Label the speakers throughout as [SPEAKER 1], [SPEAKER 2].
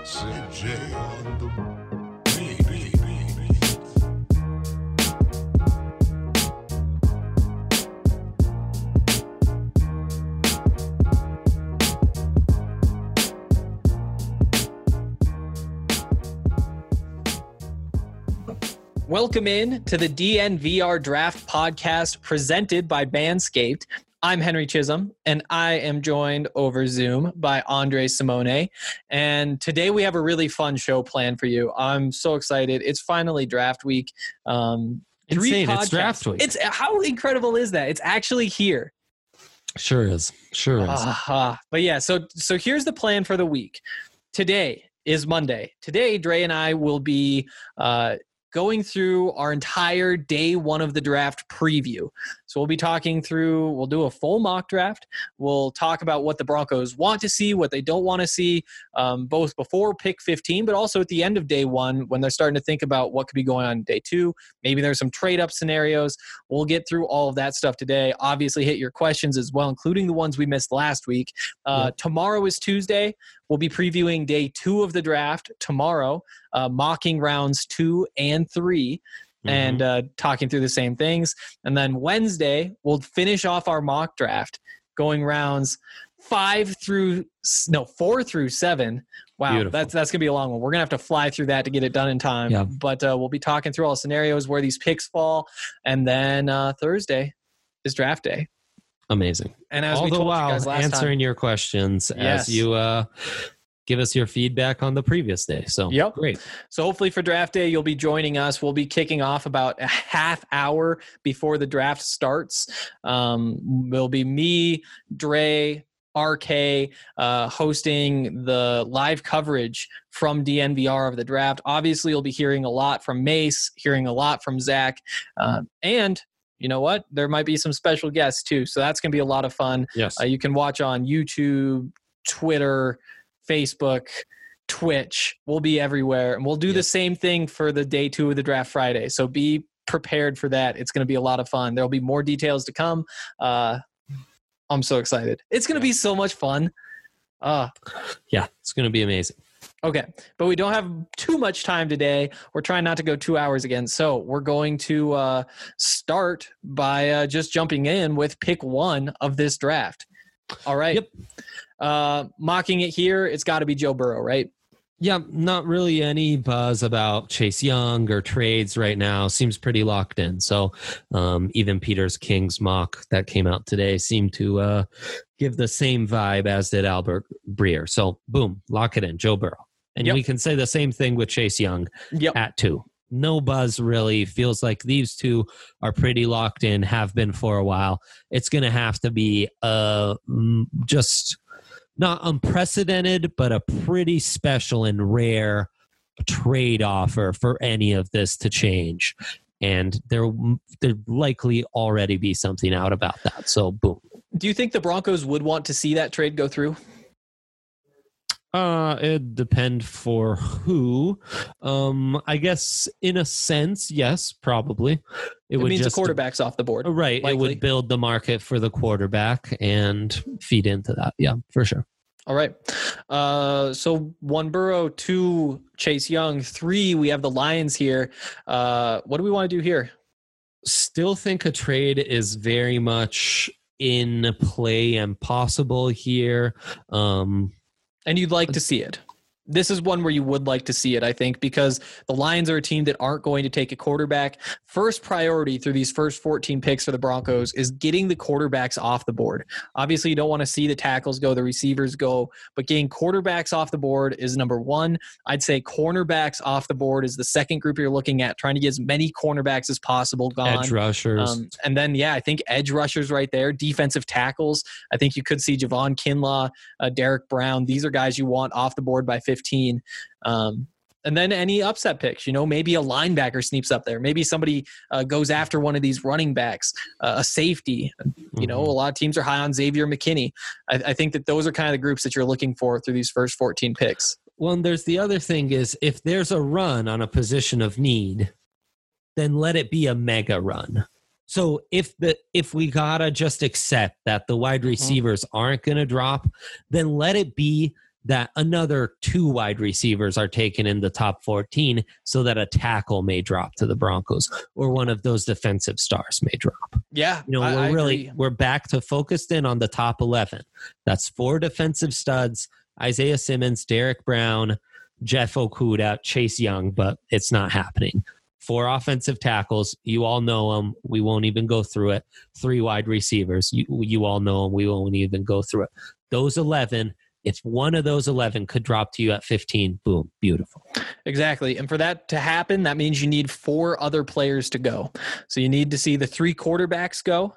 [SPEAKER 1] CJ on the beat.
[SPEAKER 2] Welcome in to the DNVR Draft Podcast presented by Manscaped. I'm Henry Chisholm, and I am joined over Zoom by Andre Simone. And today we have a really fun show planned for you. I'm so excited. It's finally draft week.
[SPEAKER 3] Insane. It's draft week.
[SPEAKER 2] How incredible is that? It's actually here.
[SPEAKER 3] Sure is.
[SPEAKER 2] But yeah, so here's the plan for the week. Today is Monday. Today, Dre and I will be going through our entire day one of the draft preview. So we'll be we'll do a full mock draft. We'll talk about what the Broncos want to see, what they don't want to see, both before pick 15, but also at the end of day one when they're starting to think about what could be going on in day two. Maybe there's some trade-up scenarios. We'll get through all of that stuff today. Obviously, hit your questions as well, including the ones we missed last week. Tomorrow is Tuesday. We'll be previewing day two of the draft tomorrow, mocking rounds 2 and 3. And talking through the same things. And then Wednesday, we'll finish off our mock draft, going rounds 4 through 7. Wow,
[SPEAKER 3] Beautiful.
[SPEAKER 2] that's going to be a long one. We're going to have to fly through that to get it done in time.
[SPEAKER 3] Yeah.
[SPEAKER 2] But we'll be talking through all the scenarios, where these picks fall. And then Thursday is draft day.
[SPEAKER 3] Amazing.
[SPEAKER 2] And as
[SPEAKER 3] all
[SPEAKER 2] we
[SPEAKER 3] the
[SPEAKER 2] told you
[SPEAKER 3] while
[SPEAKER 2] guys last
[SPEAKER 3] answering
[SPEAKER 2] time,
[SPEAKER 3] your questions
[SPEAKER 2] Yes.
[SPEAKER 3] as you give us your feedback on the previous day. So Great.
[SPEAKER 2] So hopefully for draft day, you'll be joining us. We'll be kicking off about a half hour before the draft starts. Will be me, Dre, RK, hosting the live coverage from DNVR of the draft. Obviously, you'll be hearing a lot from Mace, hearing a lot from Zach, and you know what? There might be some special guests too. So that's going to be a lot of fun.
[SPEAKER 3] Yes.
[SPEAKER 2] You can watch on YouTube, Twitter, Facebook, Twitch. We'll be everywhere. And we'll do the same thing for the day 2 of the draft Friday. So be prepared for that. It's going to be a lot of fun. There'll be more details to come. I'm so excited. It's going to be so much fun.
[SPEAKER 3] Yeah, it's going to be amazing.
[SPEAKER 2] Okay, but we don't have too much time today. We're trying not to go 2 hours again. So we're going to start by just jumping in with pick 1 of this draft. All right.
[SPEAKER 3] Yep.
[SPEAKER 2] Mocking it here, it's got to be Joe Burrow, right?
[SPEAKER 3] Yeah, not really any buzz about Chase Young or trades right now. Seems pretty locked in. So even Peter's King's mock that came out today seemed to give the same vibe as did Albert Breer. So boom, lock it in, Joe Burrow. And we can say the same thing with Chase Young at 2. No buzz really. Feels like these two are pretty locked in, have been for a while. It's going to have to be just not unprecedented, but a pretty special and rare trade offer for any of this to change. And there likely already be something out about that. So boom.
[SPEAKER 2] Do you think the Broncos would want to see that trade go through?
[SPEAKER 3] It depend for who. I guess in a sense, yes, probably.
[SPEAKER 2] It means the quarterback's off the board.
[SPEAKER 3] Right. Likely. It would build the market for the quarterback and feed into that. Yeah, for sure.
[SPEAKER 2] All right. So 1 Burrow, 2 Chase Young, 3 we have the Lions here. What do we want to do here?
[SPEAKER 3] Still think a trade is very much in play and possible here.
[SPEAKER 2] And you'd like to see it. This is one where you would like to see it, I think, because the Lions are a team that aren't going to take a quarterback. First priority through these first 14 picks for the Broncos is getting the quarterbacks off the board. Obviously, you don't want to see the tackles go, the receivers go, but getting quarterbacks off the board is number 1. I'd say cornerbacks off the board is the second group you're looking at, trying to get as many cornerbacks as possible gone.
[SPEAKER 3] Edge rushers.
[SPEAKER 2] And then, I think edge rushers right there, defensive tackles. I think you could see Javon Kinlaw, Derek Brown. These are guys you want off the board by 15. And then any upset picks, maybe a linebacker sneaks up there. Maybe somebody goes after one of these running backs, a safety. A lot of teams are high on Xavier McKinney. I think that those are kind of the groups that you're looking for through these first 14 picks.
[SPEAKER 3] Well, and there's the other thing is if there's a run on a position of need, then let it be a mega run. So if we gotta just accept that the wide receivers aren't going to drop, then let it be that another 2 wide receivers are taken in the top 14 so that a tackle may drop to the Broncos or one of those defensive stars may drop.
[SPEAKER 2] Yeah,
[SPEAKER 3] We're back to focused in on the top 11. That's 4 defensive studs: Isaiah Simmons, Derek Brown, Jeff Okudah, Chase Young, but it's not happening. 4 offensive tackles. You all know them. We won't even go through it. 3 wide receivers. You all know them. We won't even go through it. Those 11, if one of those 11 could drop to you at 15, boom, beautiful.
[SPEAKER 2] Exactly. And for that to happen, that means you need 4 other players to go. So you need to see the 3 quarterbacks go.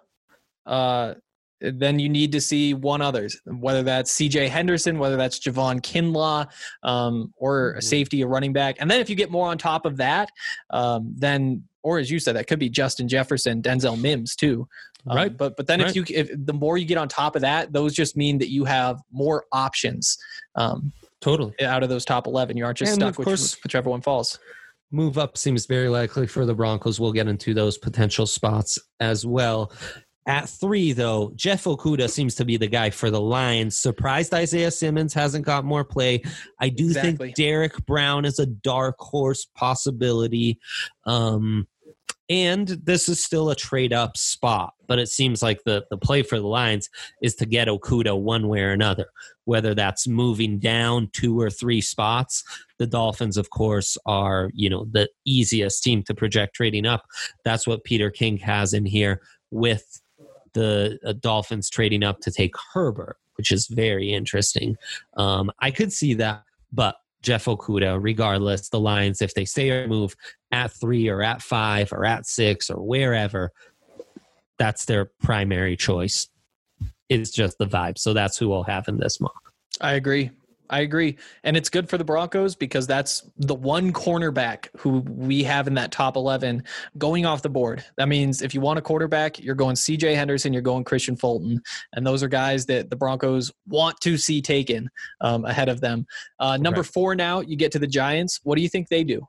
[SPEAKER 2] Then you need to see one others, whether that's CJ Henderson, whether that's Javon Kinlaw, or a safety, a running back. And then if you get more on top of that, then, or as you said, that could be Justin Jefferson, Denzel Mims too.
[SPEAKER 3] Right.
[SPEAKER 2] But then
[SPEAKER 3] right.
[SPEAKER 2] if the more you get on top of that, those just mean that you have more options.
[SPEAKER 3] Totally.
[SPEAKER 2] Out of those top 11, you aren't just stuck with whichever one falls.
[SPEAKER 3] Move up seems very likely for the Broncos. We'll get into those potential spots as well. At 3, though, Jeff Okudah seems to be the guy for the Lions. Surprised Isaiah Simmons hasn't got more play. I do think Derek Brown is a dark horse possibility. And this is still a trade-up spot, but it seems like the play for the Lions is to get Okudah one way or another, whether that's moving down 2 or 3 spots. The Dolphins, of course, are the easiest team to project trading up. That's what Peter King has in here with the Dolphins trading up to take Herbert, which is very interesting. I could see that, but Jeff Okudah, regardless, the Lions, if they stay or move at 3 or at 5 or at 6 or wherever, that's their primary choice. It's just the vibe. So that's who we'll have in this mock.
[SPEAKER 2] I agree. And it's good for the Broncos because that's the one cornerback who we have in that top 11 going off the board. That means if you want a quarterback, you're going CJ Henderson, you're going Christian Fulton. And those are guys that the Broncos want to see taken ahead of them. Number 4 now, you get to the Giants. What do you think they do?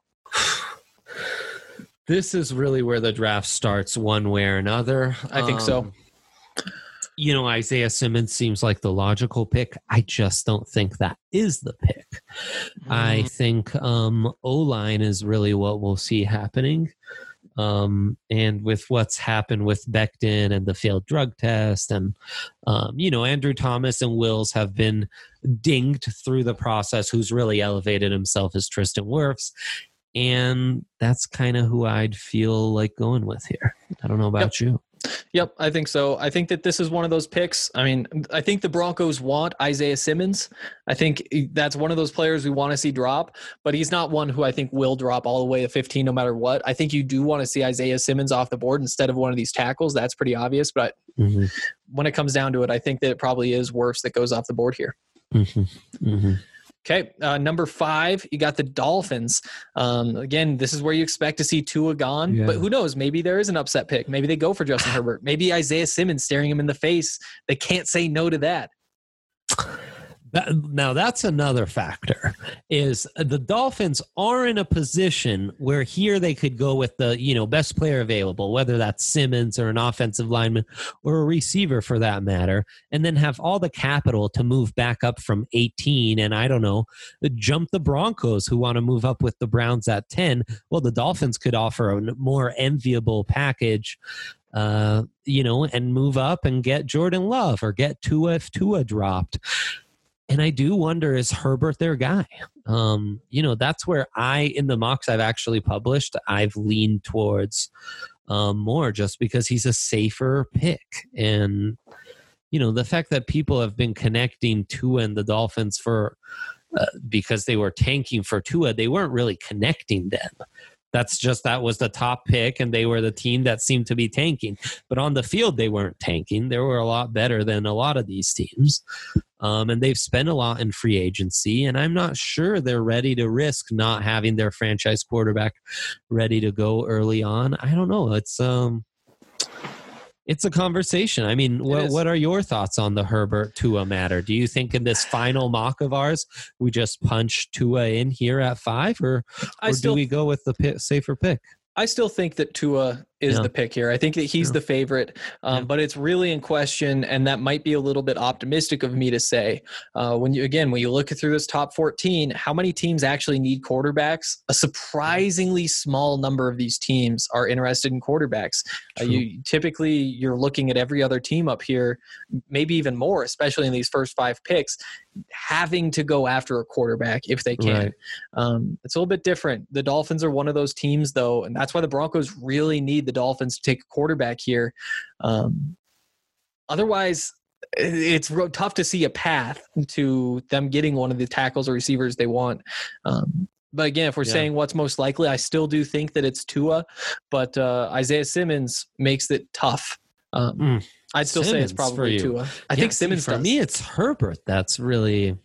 [SPEAKER 3] This is really where the draft starts one way or another.
[SPEAKER 2] I think so.
[SPEAKER 3] Isaiah Simmons seems like the logical pick. I just don't think that is the pick. I think O-line is really what we'll see happening. And with what's happened with Becton and the failed drug test and, Andrew Thomas and Wills have been dinged through the process. Who's really elevated himself is Tristan Wirfs. And that's kind of who I'd feel like going with here. I don't know about you.
[SPEAKER 2] Yep, I think so. I think that this is one of those picks. I mean, I think the Broncos want Isaiah Simmons. I think that's one of those players we want to see drop, but he's not one who I think will drop all the way to 15 no matter what. I think you do want to see Isaiah Simmons off the board instead of one of these tackles. That's pretty obvious, but when it comes down to it, I think that it probably is Wirfs that goes off the board here. Okay, number 5, you got the Dolphins. Again, this is where you expect to see Tua gone, but who knows? Maybe there is an upset pick. Maybe they go for Justin Herbert. Maybe Isaiah Simmons staring him in the face. They can't say no to that.
[SPEAKER 3] Now, that's another factor, is the Dolphins are in a position where here they could go with the, best player available, whether that's Simmons or an offensive lineman or a receiver for that matter, and then have all the capital to move back up from 18 and, I don't know, jump the Broncos who want to move up with the Browns at 10. Well, the Dolphins could offer a more enviable package, and move up and get Jordan Love or get Tua if Tua dropped. And I do wonder, is Herbert their guy? That's where in the mocks I've actually published, I've leaned towards more just because he's a safer pick. And, the fact that people have been connecting Tua and the Dolphins for because they were tanking for Tua, they weren't really connecting them. That was the top pick, and they were the team that seemed to be tanking. But on the field, they weren't tanking. They were a lot better than a lot of these teams. And they've spent a lot in free agency, and I'm not sure they're ready to risk not having their franchise quarterback ready to go early on. I don't know. It's a conversation. I mean, what are your thoughts on the Herbert Tua matter? Do you think in this final mock of ours, we just punch Tua in here at 5, or do we go with the safer pick?
[SPEAKER 2] I still think that Tua is
[SPEAKER 3] Yeah.
[SPEAKER 2] the pick here. I think that he's
[SPEAKER 3] Yeah.
[SPEAKER 2] the favorite,
[SPEAKER 3] Yeah.
[SPEAKER 2] but it's really in question, and that might be a little bit optimistic of me to say. When you look through this top 14, how many teams actually need quarterbacks? A surprisingly small number of these teams are interested in quarterbacks.
[SPEAKER 3] True.
[SPEAKER 2] You're looking at every other team up here, maybe even more, especially in these first 5 picks, having to go after a quarterback if they can.
[SPEAKER 3] Right.
[SPEAKER 2] It's a little bit different. The Dolphins are one of those teams, though, and that's why the Broncos really need the Dolphins to take a quarterback here. Otherwise, it's real tough to see a path to them getting one of the tackles or receivers they want. But again, if we're saying what's most likely, I still do think that it's Tua, but Isaiah Simmons makes it tough. I'd still say it's probably Tua. I think Simmons
[SPEAKER 3] for me, it's Herbert. That's really,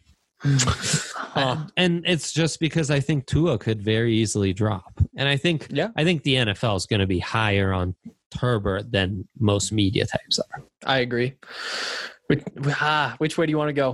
[SPEAKER 3] and it's just because I think Tua could very easily drop, and I think the NFL is going to be higher on Herbert than most media types are.
[SPEAKER 2] I agree. Which way do you want to go?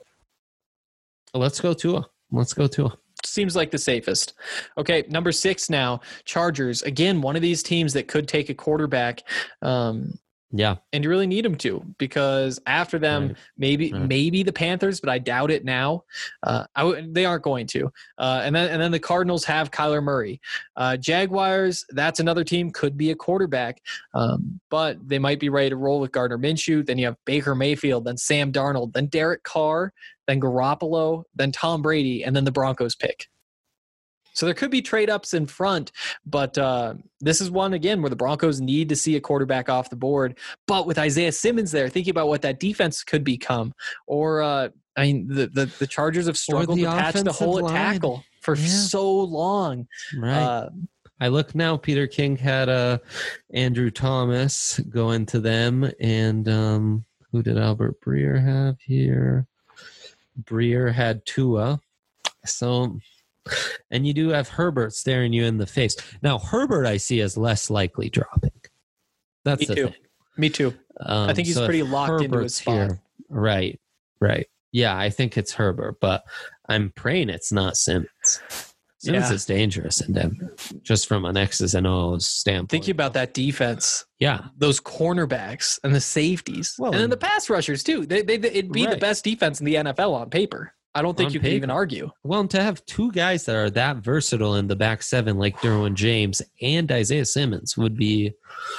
[SPEAKER 3] Let's go Tua.
[SPEAKER 2] Seems like the safest. Okay, number 6 now, Chargers. Again, one of these teams that could take a quarterback.
[SPEAKER 3] Yeah.
[SPEAKER 2] And you really need them to, because after them, maybe the Panthers, but I doubt it now. They aren't going to. And then the Cardinals have Kyler Murray. Jaguars, that's another team, could be a quarterback, but they might be ready to roll with Gardner Minshew. Then you have Baker Mayfield, then Sam Darnold, then Derek Carr, then Garoppolo, then Tom Brady, and then the Broncos pick. So there could be trade-ups in front, but this is one, again, where the Broncos need to see a quarterback off the board. But with Isaiah Simmons there, thinking about what that defense could become, or the Chargers have struggled to patch the hole at tackle for so long.
[SPEAKER 3] Right. I look now, Peter King had Andrew Thomas going to them, and who did Albert Breer have here? Breer had Tua. So... And you do have Herbert staring you in the face. Now, Herbert I see as less likely dropping. That's the thing.
[SPEAKER 2] Me too. I think he's pretty locked into his spot.
[SPEAKER 3] Here, right. Yeah, I think it's Herbert, but I'm praying it's not Simmons. Simmons is dangerous in Denver, just from an X's and O's standpoint.
[SPEAKER 2] Thinking about that defense.
[SPEAKER 3] Yeah.
[SPEAKER 2] Those cornerbacks and the safeties. Well, and then the pass rushers, too. It'd be the best defense in the NFL on paper. I don't think you can even argue.
[SPEAKER 3] Well, and to have 2 guys that are that versatile in the back 7, like Derwin James and Isaiah Simmons, would be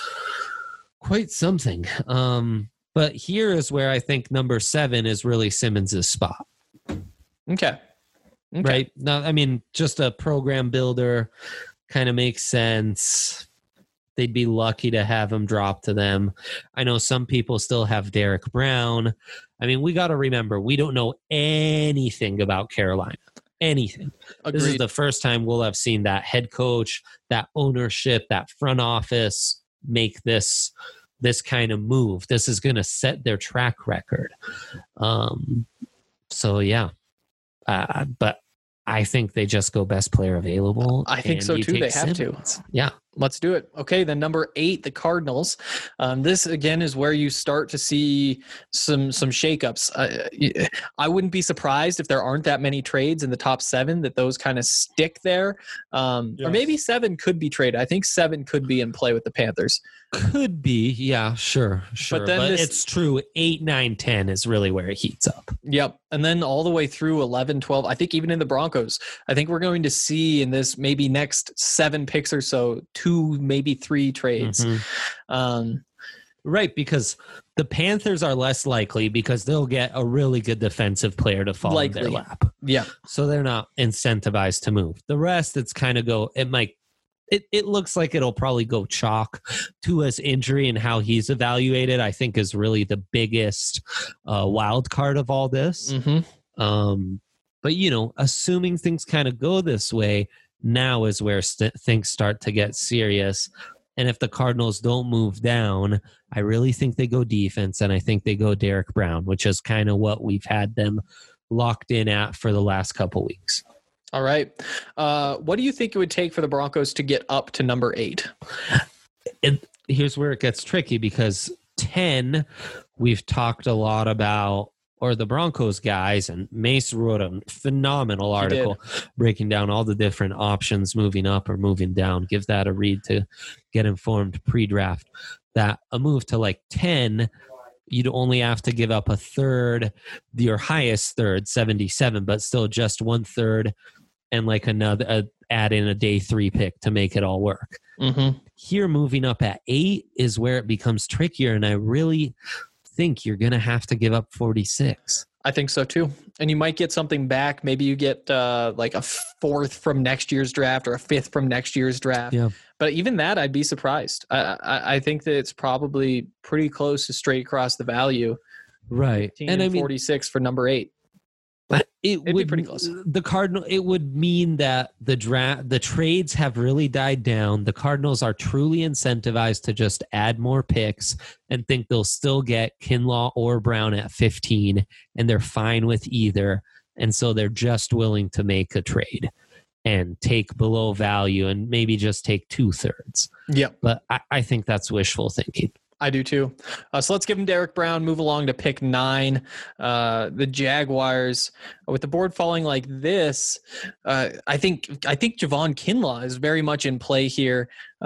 [SPEAKER 3] quite something. But here is where I think number 7 is really Simmons' spot.
[SPEAKER 2] Okay.
[SPEAKER 3] Right? Now, I mean, just a program builder kind of makes sense. They'd be lucky to have him drop to them. I know some people still have Derek Brown. I mean, we got to remember, we don't know anything about Carolina. Anything. Agreed. This is the first time we'll have seen that head coach, that ownership, that front office make this kind of move. This is going to set their track record. So, yeah. But I think they just go best player available.
[SPEAKER 2] I think so, too. They have to.
[SPEAKER 3] Yeah.
[SPEAKER 2] Let's do it. Okay, then number 8, the Cardinals. This, again, is where you start to see some shakeups. I wouldn't be surprised if there aren't that many trades in the top 7, that those kind of stick there. Or maybe 7 could be traded. I think 7 could be in play with the Panthers.
[SPEAKER 3] Could be. Yeah, sure. But it's true. 8, 9, 10 is really where it heats up.
[SPEAKER 2] Yep. And then all the way through 11, 12, I think even in the Broncos, I think we're going to see in this maybe next 7 picks or so, 2, maybe 3 trades.
[SPEAKER 3] Mm-hmm. Right, because the Panthers are less likely because they'll get a really good defensive player to fall in their lap.
[SPEAKER 2] Yeah.
[SPEAKER 3] So they're not incentivized to move. The rest, it's kind of it looks like it'll probably go chalk. Tua's injury and how he's evaluated, I think, is really the biggest wild card of all this.
[SPEAKER 2] Mm-hmm.
[SPEAKER 3] But, assuming things kind of go this way, now is where things start to get serious. And if the Cardinals don't move down, I really think they go defense, and I think they go Derek Brown, which is kind of what we've had them locked in at for the last couple weeks.
[SPEAKER 2] All right. What do you think it would take for the Broncos to get up to number 8?
[SPEAKER 3] Here's where it gets tricky, because 10, we've talked a lot about or the Broncos guys, and Mace wrote a phenomenal article breaking down all the different options moving up or moving down. Give that a read to get informed pre-draft. That a move to like 10, you'd only have to give up a third, your highest third, 77, but still just 1/3, and like another add in a day 3 pick to make it all work.
[SPEAKER 2] Mm-hmm.
[SPEAKER 3] Here, moving up at 8 is where it becomes trickier, and I really think you're going to have to give up 46.
[SPEAKER 2] I think so too. And you might get something back. Maybe you get like a 4th from next year's draft or a 5th from next year's draft.
[SPEAKER 3] Yeah.
[SPEAKER 2] But even that, I'd be surprised. I think that it's probably pretty close to straight across the value.
[SPEAKER 3] Right.
[SPEAKER 2] And I mean, 46 for number 8.
[SPEAKER 3] It'd
[SPEAKER 2] be pretty close.
[SPEAKER 3] The Cardinal. It would mean that the trades have really died down. The Cardinals are truly incentivized to just add more picks and think they'll still get Kinlaw or Brown at 15, and they're fine with either. And so they're just willing to make a trade and take below value and maybe just take 2/3.
[SPEAKER 2] Yeah,
[SPEAKER 3] but I think that's wishful thinking.
[SPEAKER 2] I do too. So let's give him Derek Brown, move along to pick 9. The Jaguars, with the board falling like this, I think Javon Kinlaw is very much in play here.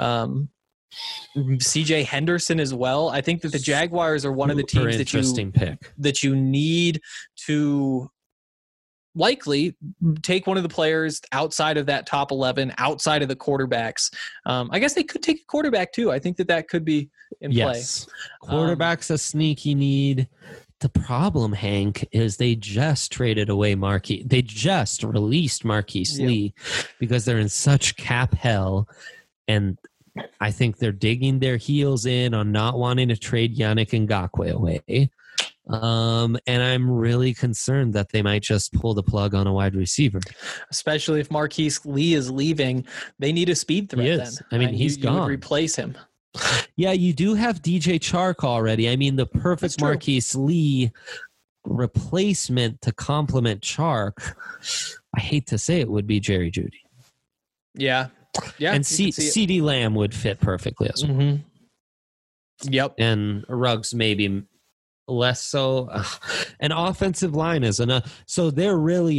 [SPEAKER 2] CJ Henderson as well. I think that the Jaguars are one of the teams that you need to likely take one of the players outside of that top 11, outside of the quarterbacks. I guess they could take a quarterback too. I think that could be in play.
[SPEAKER 3] Quarterback's a sneaky need. The problem, Hank, is they just traded away They just released Marquise Lee because they're in such cap hell. And I think they're digging their heels in on not wanting to trade Yannick Ngakoue away. And I'm really concerned that they might just pull the plug on a wide receiver.
[SPEAKER 2] Especially if Marquise Lee is leaving. They need a speed threat then.
[SPEAKER 3] I mean, he's gone.
[SPEAKER 2] You would replace him.
[SPEAKER 3] Yeah, you do have DJ Chark already. I mean, the perfect Marquise Lee replacement to complement Chark, I hate to say it, would be Jerry Jeudy.
[SPEAKER 2] Yeah. Yeah.
[SPEAKER 3] And CeeDee Lamb would fit perfectly as well.
[SPEAKER 2] Mm-hmm. Yep.
[SPEAKER 3] And Ruggs maybe less so. An offensive line is enough. So they're really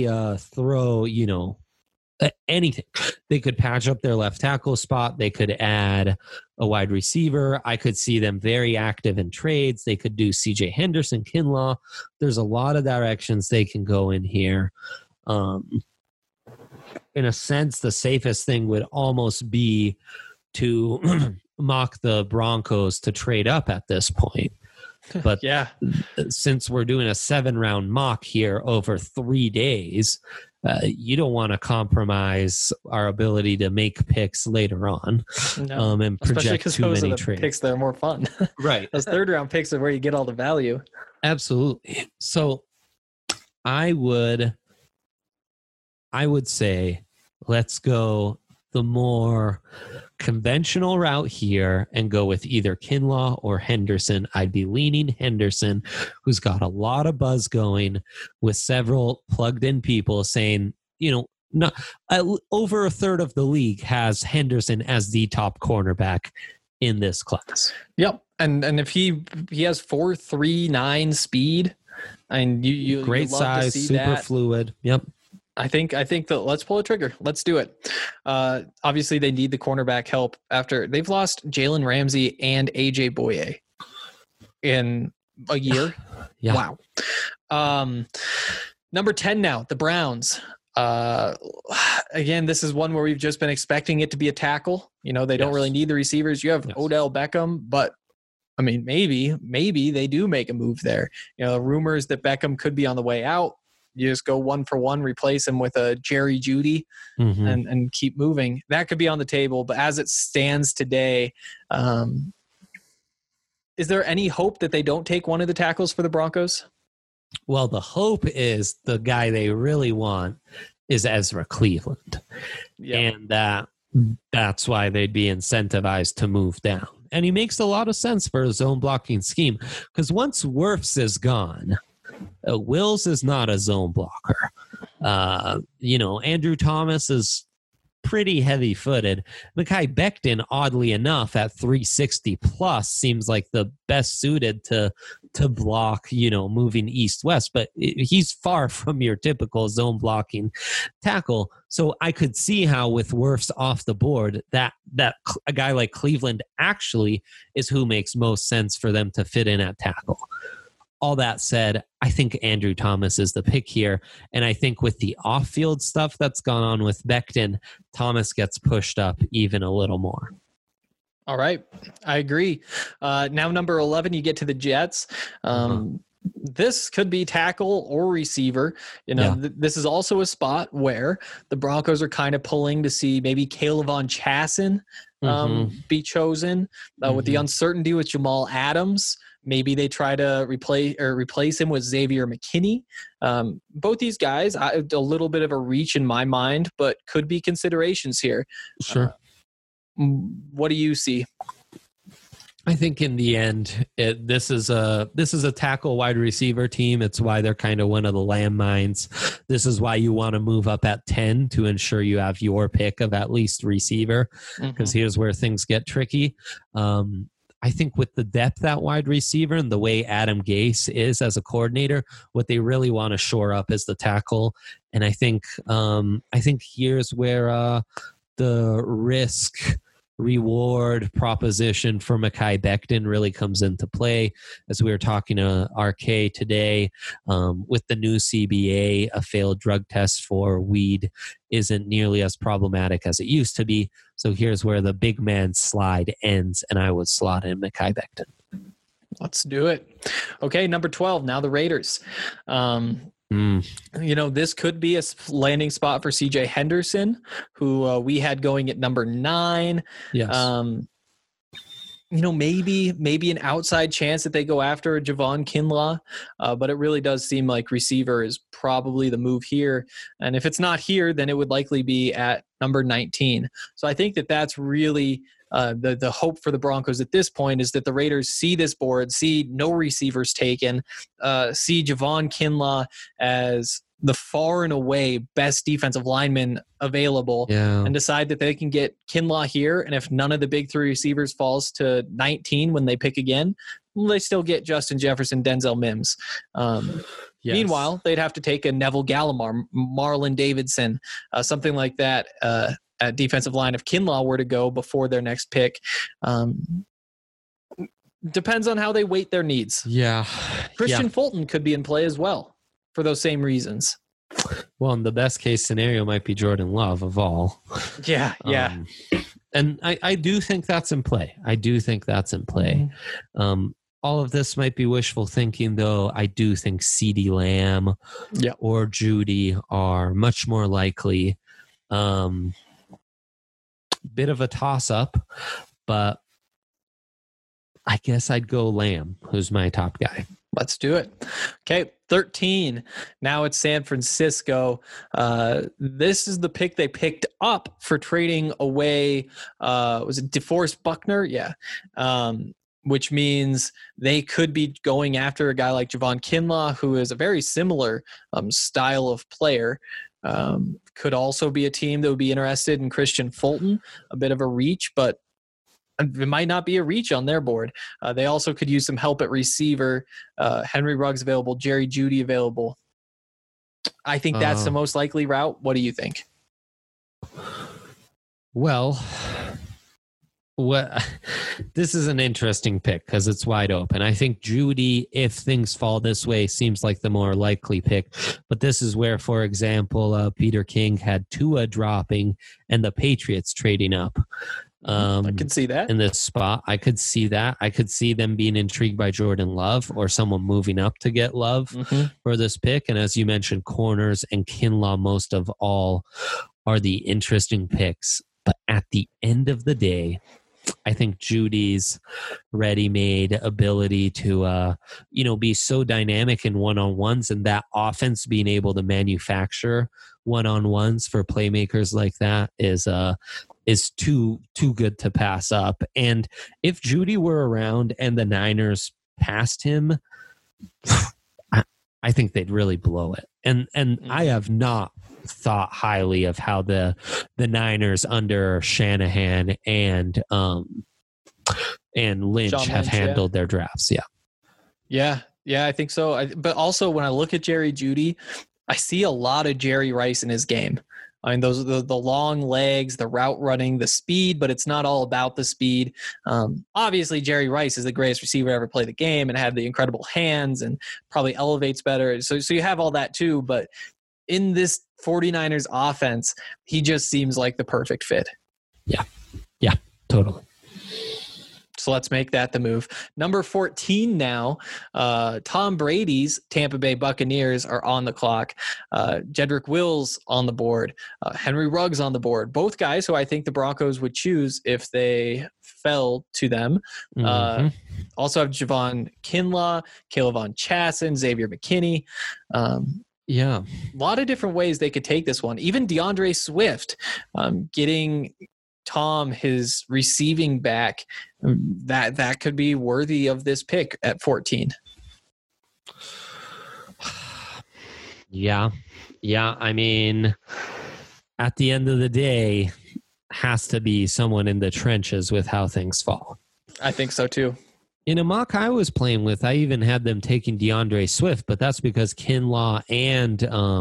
[SPEAKER 3] anything. They could patch up their left tackle spot. They could add a wide receiver. I could see them very active in trades. They could do CJ Henderson, Kinlaw. There's a lot of directions they can go in here. In a sense, the safest thing would almost be to mock the Broncos to trade up at this point. But since we're doing a 7-round mock here over 3 days, you don't want to compromise our ability to make picks later on and project too many trades.
[SPEAKER 2] Picks that are more fun.
[SPEAKER 3] Right.
[SPEAKER 2] Those 3rd-round picks are where you get all the value.
[SPEAKER 3] Absolutely. So I would say let's go the more conventional route here and go with either Kinlaw or Henderson. I'd be leaning Henderson, who's got a lot of buzz going with several plugged in people saying, not over a third of the league has Henderson as the top cornerback in this class.
[SPEAKER 2] Yep. And if he has 4.39 speed, and you
[SPEAKER 3] great size, super fluid. Yep.
[SPEAKER 2] I think that let's pull a trigger. Let's do it. Obviously, they need the cornerback help after they've lost Jalen Ramsey and AJ Bouye in a year.
[SPEAKER 3] Yeah.
[SPEAKER 2] Wow. Number 10 now, the Browns. Again, this is one where we've just been expecting it to be a tackle. They don't really need the receivers. You have Odell Beckham, but I mean, maybe they do make a move there. Rumors that Beckham could be on the way out. You just go 1 for 1, replace him with a Jerry Jeudy, and keep moving. That could be on the table. But as it stands today, is there any hope that they don't take one of the tackles for the Broncos?
[SPEAKER 3] Well, the hope is the guy they really want is Ezra Cleveland. Yep. And that's why they'd be incentivized to move down. And he makes a lot of sense for a zone blocking scheme because once Wirfs is gone, Wills is not a zone blocker. Andrew Thomas is pretty heavy-footed. Mekhi Becton, oddly enough, at 360 plus, seems like the best suited to to block, moving east-west, but he's far from your typical zone blocking tackle. So I could see how with Wirfs off the board, that a guy like Cleveland actually is who makes most sense for them to fit in at tackle. All that said, I think Andrew Thomas is the pick here. And I think with the off-field stuff that's gone on with Becton, Thomas gets pushed up even a little more.
[SPEAKER 2] All right. I agree. Now, number 11, you get to the Jets. This could be tackle or receiver. This is also a spot where the Broncos are kind of pulling to see maybe Kayvon Chaisson be chosen with the uncertainty with Jamal Adams. Maybe they try to replace him with Xavier McKinney. Both these guys, a little bit of a reach in my mind, but could be considerations here.
[SPEAKER 3] Sure.
[SPEAKER 2] What do you see?
[SPEAKER 3] I think in the end, this is a tackle wide receiver team. It's why they're kind of one of the landmines. This is why you want to move up at 10 to ensure you have your pick of at least receiver, because here's where things get tricky. I think with the depth at wide receiver and the way Adam Gase is as a coordinator, what they really want to shore up is the tackle. And I think here's where the risk reward proposition for Mekhi Becton really comes into play. As we were talking to RK today, with the new CBA, a failed drug test for weed isn't nearly as problematic as it used to be. So here's where the big man slide ends, and I would slot in Mekhi Becton.
[SPEAKER 2] Let's do it. Okay, number 12, now the Raiders. This could be a landing spot for CJ Henderson, who we had going at number 9.
[SPEAKER 3] Yes.
[SPEAKER 2] Maybe an outside chance that they go after Javon Kinlaw, but it really does seem like receiver is probably the move here. And if it's not here, then it would likely be at number 19. So I think that's really the hope for the Broncos at this point, is that the Raiders see this board, see no receivers taken, see Javon Kinlaw as the far and away best defensive lineman available, and decide that they can get Kinlaw here. And if none of the big 3 receivers falls to 19 when they pick again, they still get Justin Jefferson, Denzel Mims. Meanwhile, they'd have to take a Neville Gallimore, Marlon Davidson, something like that at defensive line if Kinlaw were to go before their next pick. Depends on how they weight their needs.
[SPEAKER 3] Yeah.
[SPEAKER 2] Christian Fulton could be in play as well for those same reasons.
[SPEAKER 3] Well, and the best case scenario might be Jordan Love of all.
[SPEAKER 2] Yeah.
[SPEAKER 3] And I do think that's in play. All of this might be wishful thinking, though. I do think CeeDee Lamb or Judy are much more likely. Bit of a toss-up, but I guess I'd go Lamb, who's my top guy.
[SPEAKER 2] Let's do it. Okay, 13. Now it's San Francisco. This is the pick they picked up for trading away. Was it DeForest Buckner? Yeah. Which means they could be going after a guy like Javon Kinlaw, who is a very similar style of player. Could also be a team that would be interested in Christian Fulton, a bit of a reach, but it might not be a reach on their board. They also could use some help at receiver. Henry Ruggs available, Jerry Jeudy available. I think that's the most likely route. What do you think?
[SPEAKER 3] Well, this is an interesting pick because it's wide open. I think Jeudy, if things fall this way, seems like the more likely pick. But this is where, for example, Peter King had Tua dropping and the Patriots trading up.
[SPEAKER 2] I could see that.
[SPEAKER 3] In this spot, I could see that. I could see them being intrigued by Jordan Love or someone moving up to get Love for this pick. And as you mentioned, corners and Kinlaw most of all are the interesting picks. But at the end of the day, I think Judy's ready-made ability to, be so dynamic in one-on-ones, and that offense being able to manufacture one-on-ones for playmakers like that is too good to pass up. And if Jeudy were around and the Niners passed him, I think they'd really blow it. And I have not thought highly of how the Niners under Shanahan and Lynch have handled their drafts. Yeah.
[SPEAKER 2] Yeah, I think so. But also when I look at Jerry Jeudy, I see a lot of Jerry Rice in his game. I mean, those the long legs, the route running, the speed, but it's not all about the speed. Obviously, Jerry Rice is the greatest receiver to ever play the game and had the incredible hands and probably elevates better. So you have all that too. But in this 49ers offense, he just seems like the perfect fit.
[SPEAKER 3] Yeah, totally.
[SPEAKER 2] So let's make that the move. Number 14 now, Tom Brady's Tampa Bay Buccaneers are on the clock. Jedrick Wills on the board. Henry Ruggs on the board. Both guys who I think the Broncos would choose if they fell to them. Also have Javon Kinlaw, Caleb Chasson, Xavier McKinney.
[SPEAKER 3] Yeah.
[SPEAKER 2] A lot of different ways they could take this one. Even DeAndre Swift, getting Tom his receiving back, that could be worthy of this pick at 14.
[SPEAKER 3] Yeah. I mean, at the end of the day, has to be someone in the trenches with how things fall.
[SPEAKER 2] I think so too.
[SPEAKER 3] In a mock I was playing with, I even had them taking DeAndre Swift, but that's because Kinlaw and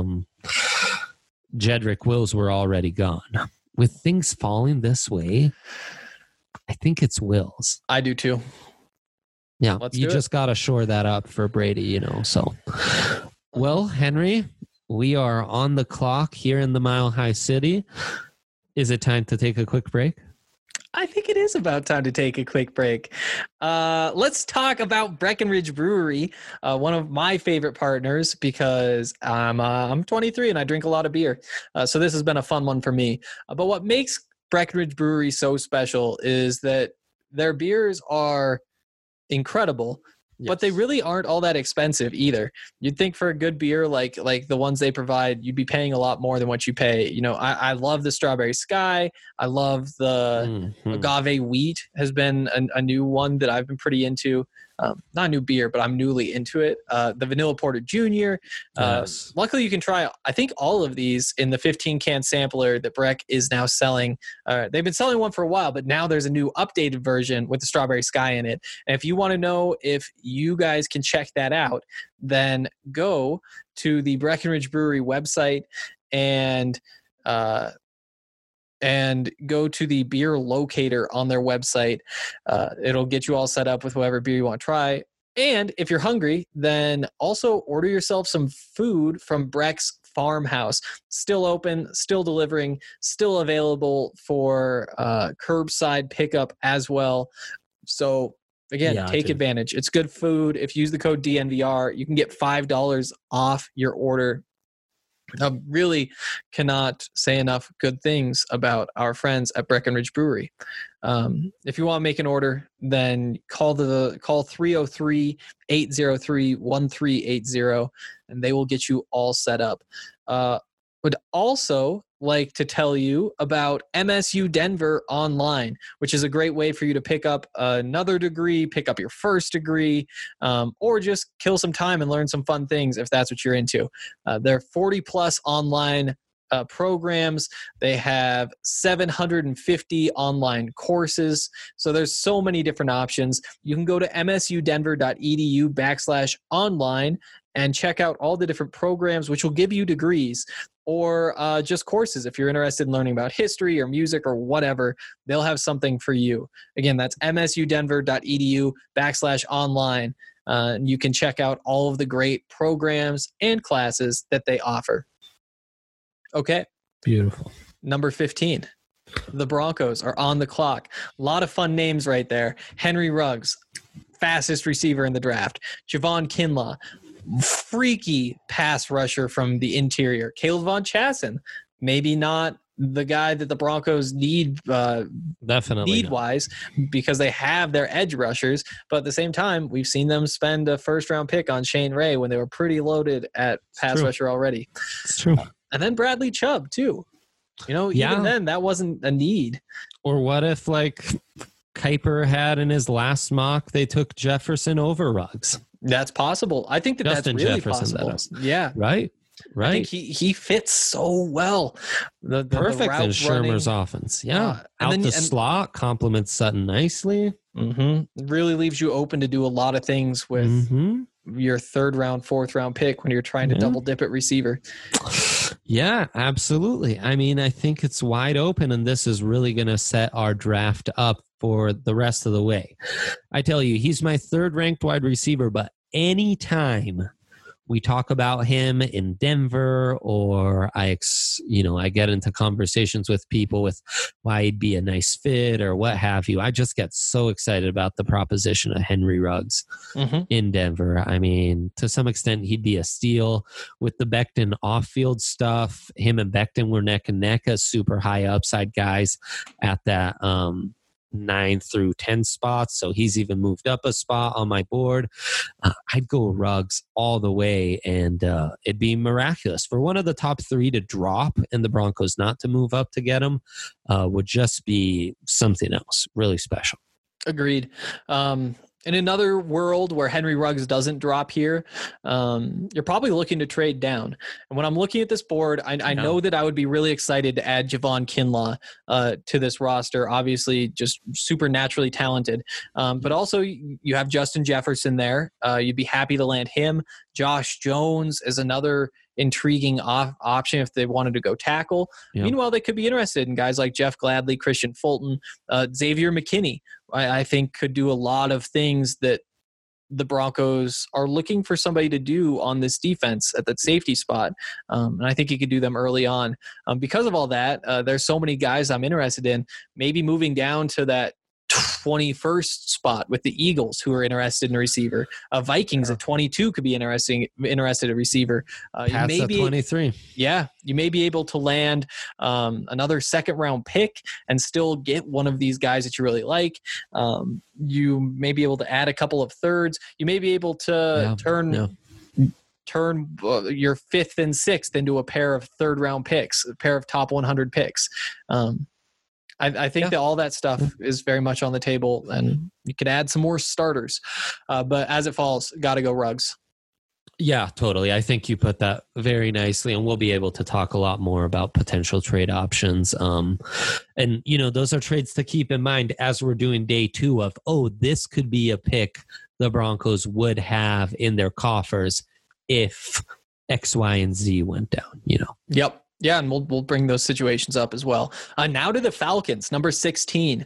[SPEAKER 3] Jedrick Wills were already gone. With things falling this way, I think it's Wills.
[SPEAKER 2] I do too.
[SPEAKER 3] Yeah, you just got to shore that up for Brady, so. Well, Henry, we are on the clock here in the Mile High City. Is it time to take a quick break?
[SPEAKER 2] I think it is about time to take a quick break. Let's talk about Breckenridge Brewery, one of my favorite partners, because I'm 23 and I drink a lot of beer. So this has been a fun one for me. But what makes Breckenridge Brewery so special is that their beers are incredible. Yes. But they really aren't all that expensive either. You'd think for a good beer like the ones they provide, you'd be paying a lot more than what you pay. I love the Strawberry Sky. I love the Agave Wheat has been a new one that I've been pretty into. Not a new beer, but I'm newly into it. The Vanilla Porter Jr.
[SPEAKER 3] Yes.
[SPEAKER 2] Luckily, you can try, I think, all of these in the 15-can sampler that Breck is now selling. They've been selling one for a while, but now there's a new updated version with the Strawberry Sky in it. And if you want to know if you guys can check that out, then go to the Breckenridge Brewery website and go to the beer locator on their website. It'll get you all set up with whatever beer you want to try. And if you're hungry, then also order yourself some food from Breck's Farmhouse. Still open, still delivering, still available for curbside pickup as well. So again, take advantage. It's good food. If you use the code DNVR, you can get $5 off your order. I really cannot say enough good things about our friends at Breckenridge Brewery. If you want to make an order, then call 303-803-1380, and they will get you all set up. Would also like to tell you about MSU Denver Online, which is a great way for you to pick up another degree, pick up your first degree, or just kill some time and learn some fun things if that's what you're into. There are 40-plus online programs. They have 750 online courses. So there's so many different options. You can go to msudenver.edu/online and check out all the different programs, which will give you degrees or just courses. If you're interested in learning about history or music or whatever, they'll have something for you. Again, that's msudenver.edu/online. And you can check out all of the great programs and classes that they offer. Okay.
[SPEAKER 3] Beautiful.
[SPEAKER 2] Number 15. The Broncos are on the clock. A lot of fun names right there. Henry Ruggs, fastest receiver in the draft. Javon Kinlaw, freaky pass rusher from the interior. Caleb Chasson, maybe not the guy that the Broncos need
[SPEAKER 3] definitely
[SPEAKER 2] need-wise because they have their edge rushers. But at the same time, we've seen them spend a first-round pick on Shane Ray when they were pretty loaded at pass rusher already.
[SPEAKER 3] It's true.
[SPEAKER 2] And then Bradley Chubb, too. Even then, that wasn't a need.
[SPEAKER 3] Or what if, Kuiper had in his last mock, they took Jefferson over Ruggs?
[SPEAKER 2] That's possible. I think that's really
[SPEAKER 3] Jefferson,
[SPEAKER 2] possible.
[SPEAKER 3] that is.
[SPEAKER 2] Yeah.
[SPEAKER 3] Right? Right.
[SPEAKER 2] I think he fits so well. The
[SPEAKER 3] Perfect
[SPEAKER 2] route
[SPEAKER 3] in Shermer's
[SPEAKER 2] running,
[SPEAKER 3] offense. Yeah.
[SPEAKER 2] and
[SPEAKER 3] Out
[SPEAKER 2] then
[SPEAKER 3] the slot, complements Sutton nicely.
[SPEAKER 2] really leaves you open to do a lot of things with your 3rd round, 4th round pick when you're trying to double dip at receiver.
[SPEAKER 3] Yeah, absolutely. I mean, I think it's wide open, and this is really going to set our draft up for the rest of the way. I tell you, he's my 3rd ranked wide receiver, but anytime we talk about him in Denver, or I get into conversations with people with why he'd be a nice fit or what have you, I just get so excited about the proposition of Henry Ruggs in Denver. I mean, to some extent, he'd be a steal with the Becton off-field stuff. Him and Becton were neck and neck as super high upside guys at that 9 through 10 spots, so he's even moved up a spot on my board. I'd go Ruggs all the way, and it'd be miraculous for one of the top 3 to drop and the Broncos not to move up to get him. Would just be something else really special.
[SPEAKER 2] Agreed. In another world where Henry Ruggs doesn't drop here, you're probably looking to trade down. And when I'm looking at this board, I know that I would be really excited to add Javon Kinlaw to this roster. Obviously, just super naturally talented. But also, you have Justin Jefferson there. You'd be happy to land him. Josh Jones is another intriguing option if they wanted to go tackle. Yep. Meanwhile, they could be interested in guys like Jeff Gladney, Christian Fulton, Xavier McKinney. I think could do a lot of things that the Broncos are looking for somebody to do on this defense at that safety spot. And I think he could do them early on. Because of all that, there's so many guys I'm interested in, maybe moving down to that 21st spot with the Eagles, who are interested in a receiver. Vikings at 22 could be interested in a receiver.
[SPEAKER 3] Pats at 23.
[SPEAKER 2] Yeah, you may be able to land another 2nd round pick and still get one of these guys that you really like. You may be able to add a couple of 3rds. You may be able to turn your 5th and 6th into a pair of 3rd round picks, a pair of top 100 picks. I think that all that stuff is very much on the table, and you could add some more starters. But as it falls, got to go Ruggs.
[SPEAKER 3] Yeah, totally. I think you put that very nicely, and we'll be able to talk a lot more about potential trade options. And, those are trades to keep in mind as we're doing day 2 of, this could be a pick the Broncos would have in their coffers if X, Y, and Z went down,
[SPEAKER 2] Yep. Yeah, and we'll bring those situations up as well. Now to the Falcons, number 16.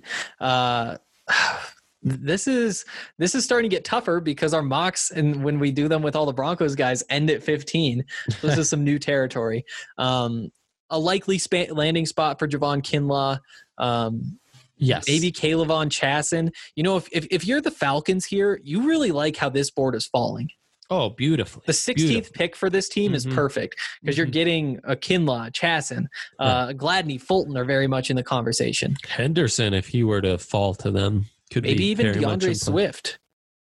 [SPEAKER 2] This is starting to get tougher because our mocks, and when we do them with all the Broncos guys, end at 15. This is some new territory. A likely landing spot for Javon Kinlaw.
[SPEAKER 3] Yes.
[SPEAKER 2] Maybe Kayvon Chaisson. If you're the Falcons here, you really like how this board is falling.
[SPEAKER 3] Oh, beautifully.
[SPEAKER 2] The 16th pick for this team is perfect because you're getting a Kinlaw, Chaisson, Gladney, Fulton are very much in the conversation.
[SPEAKER 3] Henderson, if he were to fall to them, could
[SPEAKER 2] maybe
[SPEAKER 3] be
[SPEAKER 2] even
[SPEAKER 3] very
[SPEAKER 2] DeAndre Swift.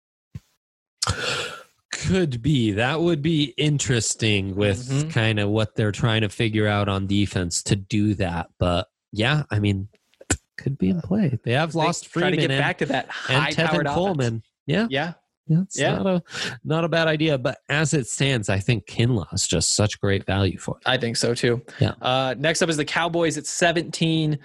[SPEAKER 3] Could be. That would be interesting with kind of what they're trying to figure out on defense to do that. But yeah, I mean, could be in play. They have lost Freeman
[SPEAKER 2] try to get back to that high-powered
[SPEAKER 3] Tevin Coleman.
[SPEAKER 2] Yeah.
[SPEAKER 3] It's not a bad idea, but as it stands, I think Kinlaw is just such great value for it.
[SPEAKER 2] I think so too.
[SPEAKER 3] Yeah.
[SPEAKER 2] Next up is the Cowboys at 17.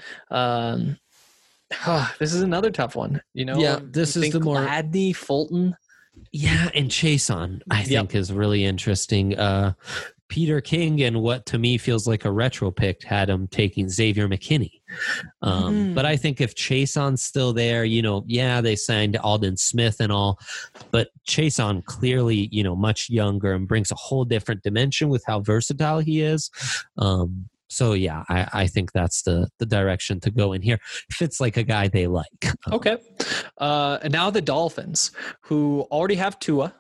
[SPEAKER 2] This is another tough one.
[SPEAKER 3] This is the more
[SPEAKER 2] Gladney, Fulton.
[SPEAKER 3] Yeah, and Chaisson, I think, is really interesting. Peter King, and what to me feels like a retro pick, had him taking Xavier McKinney. But I think if Chaisson's still there, they signed Aldon Smith and all, but Chaisson clearly, much younger and brings a whole different dimension with how versatile he is. So yeah, I think that's the direction to go in here. Fits like a guy they like.
[SPEAKER 2] Okay. And now the Dolphins, who already have Tua.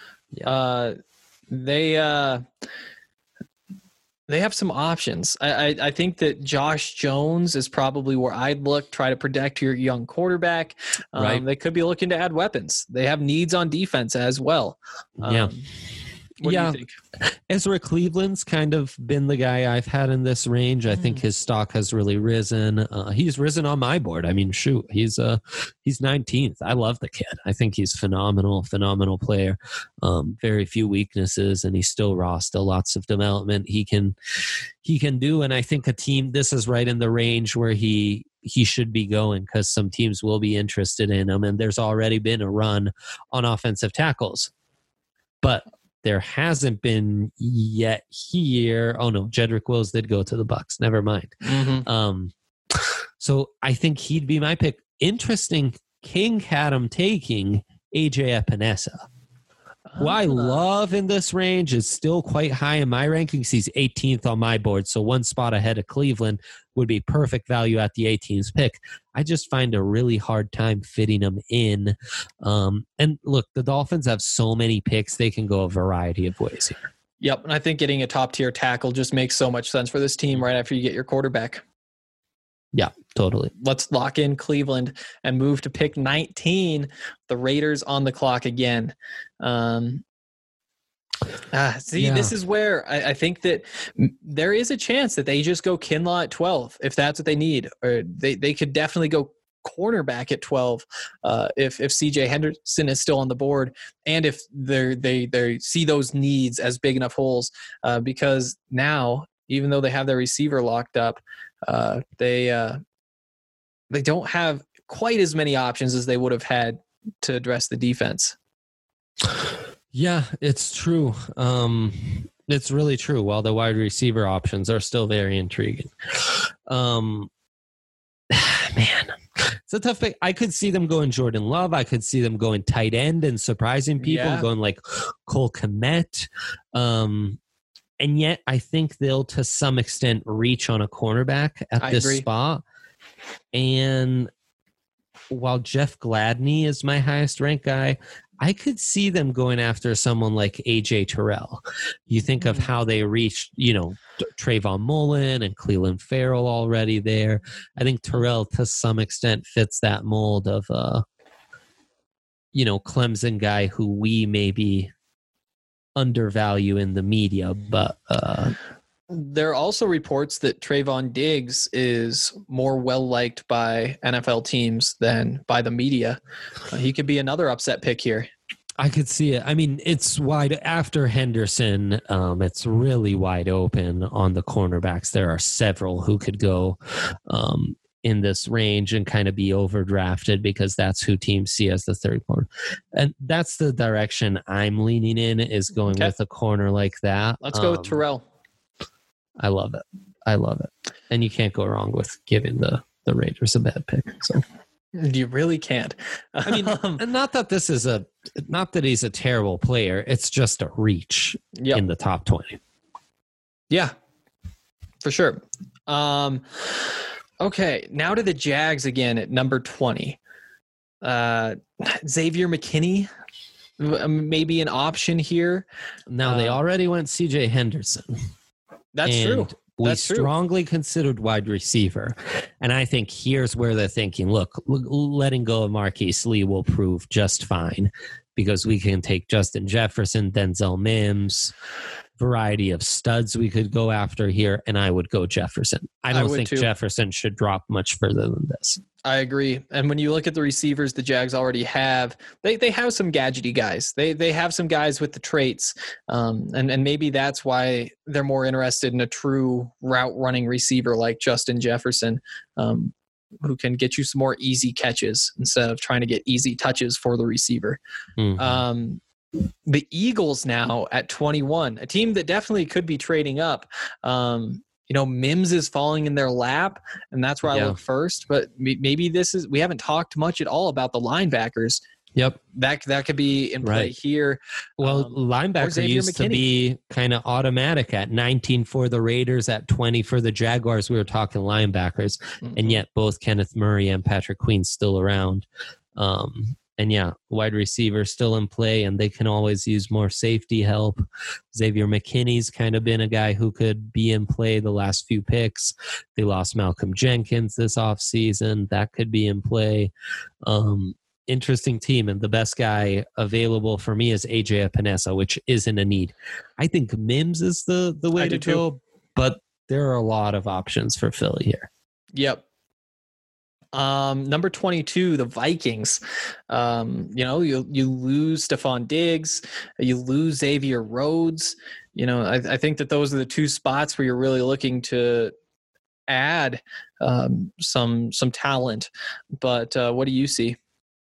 [SPEAKER 2] They have some options. I think that Josh Jones is probably where I'd look, try to protect your young quarterback. They could be looking to add weapons. They have needs on defense as well. What do you think?
[SPEAKER 3] Ezra Cleveland's kind of been the guy I've had in this range. I think his stock has really risen. He's risen on my board. I mean, shoot, he's 19th. I love the kid. I think he's phenomenal player. Very few weaknesses, and he's still raw. Still lots of development he can do. And I think this is right in the range where he should be going, because some teams will be interested in him, and there's already been a run on offensive tackles. But there hasn't been yet here. Oh no, Jedrick Wills did go to the Bucs. Never mind. So I think he'd be my pick. Interesting, King had him taking AJ Epinesa, who I love in this range, is still quite high in my rankings. He's 18th on my board, so one spot ahead of Cleveland would be perfect value at the 18th pick. I just find a really hard time fitting him in. And look, the Dolphins have so many picks, they can go a variety of ways here.
[SPEAKER 2] Yep, and I think getting a top-tier tackle just makes so much sense for this team right after you get your quarterback.
[SPEAKER 3] Yeah, totally.
[SPEAKER 2] Let's lock in Cleveland and move to pick 19. The Raiders on the clock again. This is where I think that there is a chance that they just go Kinlaw at 12 if that's what they need, or they could definitely go cornerback at 12 if CJ Henderson is still on the board, and if they see those needs as big enough holes, because now, even though they have their receiver locked up, they don't have quite as many options as they would have had to address the defense.
[SPEAKER 3] Yeah, it's true. It's really true. While the wide receiver options are still very intriguing. Man, it's a tough pick. I could see them going Jordan Love. I could see them going tight end and surprising people, going like Cole Kmet. And yet I think they'll, to some extent, reach on a cornerback at this spot. And while Jeff Gladney is my highest ranked guy, I could see them going after someone like AJ Terrell. You think of how they reached, Trayvon Mullen and Cleveland Farrell already there. I think Terrell, to some extent, fits that mold of, Clemson guy who we maybe undervalue in the media, but
[SPEAKER 2] there are also reports that Trayvon Diggs is more well-liked by NFL teams than by the media. He could be another upset pick here.
[SPEAKER 3] I could see it. I mean, it's wide after Henderson. It's really wide open on the cornerbacks. There are several who could go in this range and kind of be overdrafted because that's who teams see as the third corner. And that's the direction I'm leaning in, is going with a corner like that.
[SPEAKER 2] Let's go with Terrell.
[SPEAKER 3] I love it. And you can't go wrong with giving the Raiders a bad pick. So
[SPEAKER 2] you really can't.
[SPEAKER 3] I mean, not that he's a terrible player. It's just a reach in the top 20.
[SPEAKER 2] Yeah, for sure. Okay, now to the Jags again at number 20. Xavier McKinney, maybe an option here.
[SPEAKER 3] Now, they already went CJ Henderson.
[SPEAKER 2] That's true.
[SPEAKER 3] We strongly considered wide receiver. And I think here's where they're thinking, look, letting go of Marquise Lee will prove just fine because we can take Justin Jefferson, Denzel Mims, variety of studs we could go after here, and I would go Jefferson. I don't think Jefferson should drop much further than this.
[SPEAKER 2] I agree. And when you look at the receivers the Jags already have, they have some gadgety guys. They have some guys with the traits, and maybe that's why they're more interested in a true route running receiver like Justin Jefferson, who can get you some more easy catches instead of trying to get easy touches for the receiver. Mm-hmm. The Eagles now at 21, a team that definitely could be trading up. Mims is falling in their lap, and that's where I look first. But maybe we haven't talked much at all about the linebackers.
[SPEAKER 3] Yep.
[SPEAKER 2] That could be in play here.
[SPEAKER 3] Well, linebacker used to be kind of automatic at 19 for the Raiders, at 20 for the Jaguars. We were talking linebackers, and yet both Kenneth Murray and Patrick Queen still around. And wide receiver still in play, and they can always use more safety help. Xavier McKinney's kind of been a guy who could be in play the last few picks. They lost Malcolm Jenkins this offseason. That could be in play. interesting team, and the best guy available for me is AJ Epinesa, which isn't a need. I think Mims is the way to go, but there are a lot of options for Philly here.
[SPEAKER 2] Yep. Number 22, the Vikings. You lose Stephon Diggs, you lose Xavier Rhodes. I think that those are the two spots where you're really looking to add some talent. But what do you see?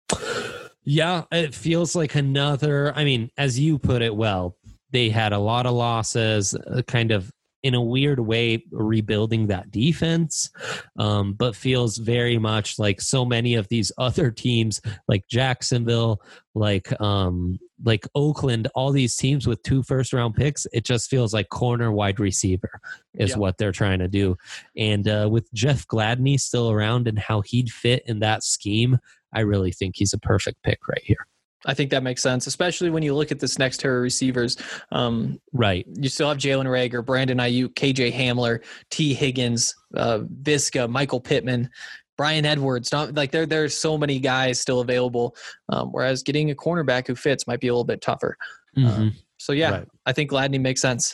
[SPEAKER 3] Yeah, it feels like another. I mean, as you put it well, they had a lot of losses, kind of in a weird way rebuilding that defense, but feels very much like so many of these other teams, like Jacksonville, like Oakland, all these teams with 2 first-round picks. It just feels like corner wide receiver is what they're trying to do. And with Jeff Gladney still around and how he'd fit in that scheme, I really think he's a perfect pick right here.
[SPEAKER 2] I think that makes sense, especially when you look at this next tier of receivers.
[SPEAKER 3] Right.
[SPEAKER 2] You still have Jalen Reagor, Brandon Ayuk, KJ Hamler, T. Higgins, Visca, Michael Pittman, Brian Edwards. There's so many guys still available, whereas getting a cornerback who fits might be a little bit tougher.
[SPEAKER 3] Mm-hmm.
[SPEAKER 2] Right. I think Gladney makes sense.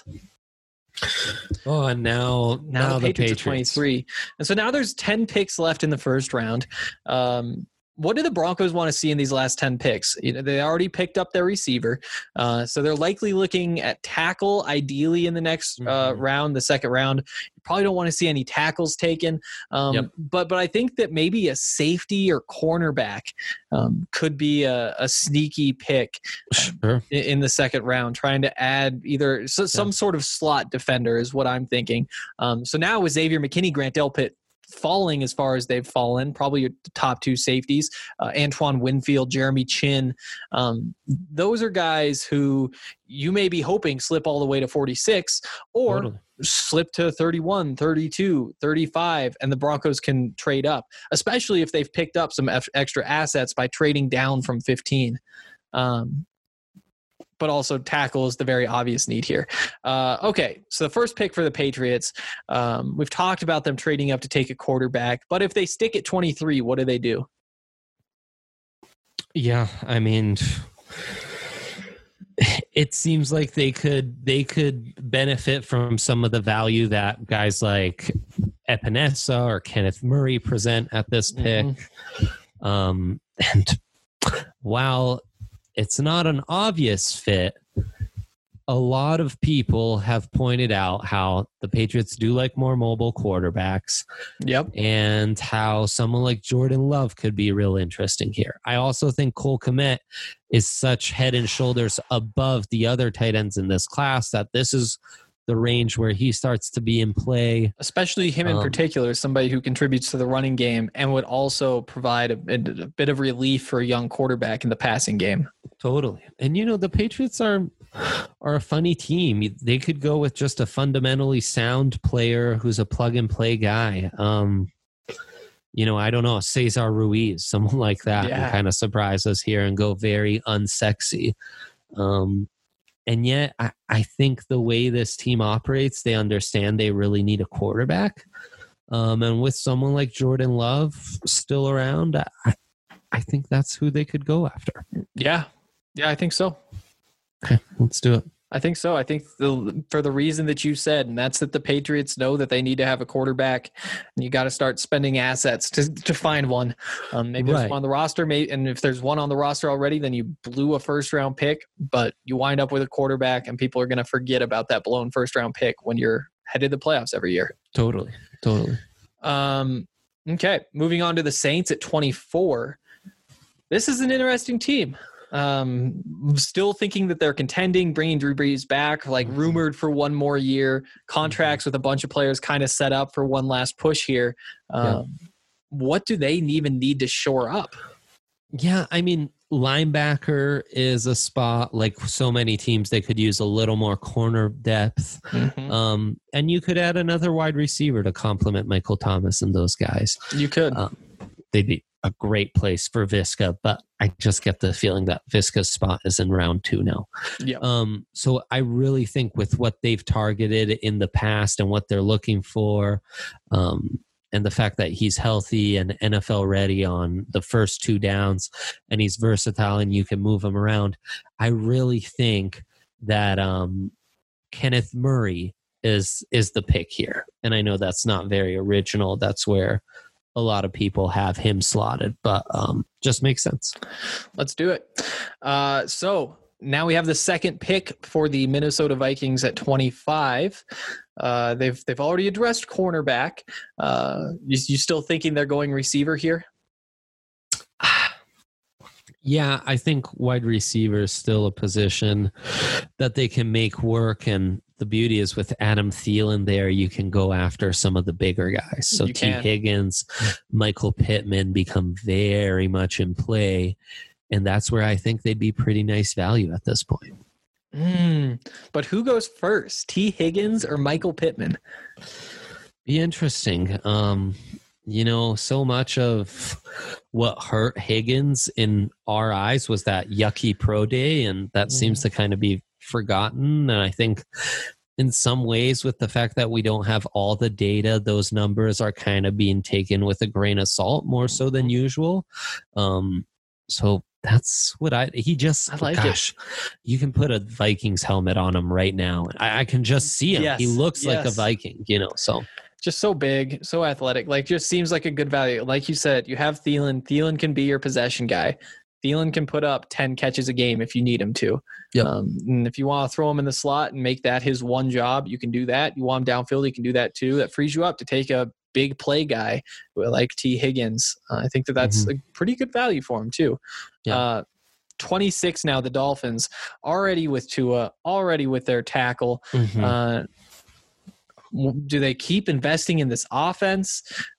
[SPEAKER 3] Oh, and now
[SPEAKER 2] the Patriots are 23. And so now there's 10 picks left in the first round. What do the Broncos want to see in these last 10 picks? They already picked up their receiver. So they're likely looking at tackle, ideally in the next round, the second round. You probably don't want to see any tackles taken. But I think that maybe a safety or cornerback could be a sneaky pick in the second round, trying to add either some sort of slot defender is what I'm thinking. So now with Xavier McKinney, Grant Delpit falling as far as they've fallen, probably your top 2 safeties, Antoine Winfield, Jeremy Chin. Those are guys who you may be hoping slip all the way to 46 or slip to 31, 32, 35, and the Broncos can trade up, especially if they've picked up some extra assets by trading down from 15. But also tackle is the very obvious need here. Okay, so the first pick for the Patriots, we've talked about them trading up to take a quarterback, but if they stick at 23, what do they do?
[SPEAKER 3] Yeah, I mean, it seems like they could benefit from some of the value that guys like Epinesa or Kenneth Murray present at this pick. And while it's not an obvious fit, a lot of people have pointed out how the Patriots do like more mobile quarterbacks.
[SPEAKER 2] Yep.
[SPEAKER 3] And how someone like Jordan Love could be real interesting here. I also think Cole Kmet is such head and shoulders above the other tight ends in this class that this is the range where he starts to be in play.
[SPEAKER 2] Especially him in particular, somebody who contributes to the running game and would also provide a bit of relief for a young quarterback in the passing game.
[SPEAKER 3] Totally. And, the Patriots are a funny team. They could go with just a fundamentally sound player who's a plug-and-play guy. I don't know, Cesar Ruiz, someone like that, and kind of surprise us here and go very unsexy. And yet, I think the way this team operates, they understand they really need a quarterback. And with someone like Jordan Love still around, I think that's who they could go after.
[SPEAKER 2] Yeah, I think so.
[SPEAKER 3] Okay, let's do it.
[SPEAKER 2] I think so. I think for the reason that you said, and that's that the Patriots know that they need to have a quarterback, and you got to start spending assets to find one. Maybe there's one on the roster, and if there's one on the roster already, then you blew a first-round pick, but you wind up with a quarterback, and people are going to forget about that blown first-round pick when you're headed to the playoffs every year.
[SPEAKER 3] Totally.
[SPEAKER 2] Okay, moving on to the Saints at 24. This is an interesting team. Still thinking that they're contending, bringing Drew Brees back, like rumored for one more year, contracts with a bunch of players kind of set up for one last push here. What do they even need to shore up?
[SPEAKER 3] Yeah, I mean, linebacker is a spot like so many teams. They could use a little more corner depth. And you could add another wide receiver to complement Michael Thomas and those guys.
[SPEAKER 2] You could.
[SPEAKER 3] They'd be a great place for Visca, but I just get the feeling that Visca's spot is in round 2 now. So I really think with what they've targeted in the past and what they're looking for, and and the fact that he's healthy and NFL ready on the first 2 downs, and he's versatile and you can move him around, I really think that Kenneth Murray is the pick here. And I know that's not very original. That's where a lot of people have him slotted, but just makes sense.
[SPEAKER 2] Let's do it. So now we have the second pick for the Minnesota Vikings at 25. They've already addressed cornerback. You still thinking they're going receiver here?
[SPEAKER 3] Yeah, I think wide receiver is still a position that they can make work. And the beauty is with Adam Thielen there, you can go after some of the bigger guys. So T. Higgins, Michael Pittman become very much in play. And that's where I think they'd be pretty nice value at this point.
[SPEAKER 2] But who goes first, T. Higgins or Michael Pittman?
[SPEAKER 3] Be interesting. So much of what hurt Higgins in our eyes was that yucky pro day, and that seems to kind of be forgotten. And I think in some ways, with the fact that we don't have all the data, those numbers are kind of being taken with a grain of salt more so than usual. So that's what I like. Gosh, you can put a Vikings helmet on him right now. I can just see him. Yes, he looks like a Viking, so.
[SPEAKER 2] Just so big, so athletic, just seems like a good value. Like you said, you have Thielen. Thielen can be your possession guy. Thielen can put up 10 catches a game if you need him to.
[SPEAKER 3] Yep.
[SPEAKER 2] And if you want to throw him in the slot and make that his one job, you can do that. You want him downfield, you can do that too. That frees you up to take a big play guy like T. Higgins. I think that's a pretty good value for him too. Yeah. 26 now, the Dolphins, already with Tua, already with their tackle. Do they keep investing in this offense?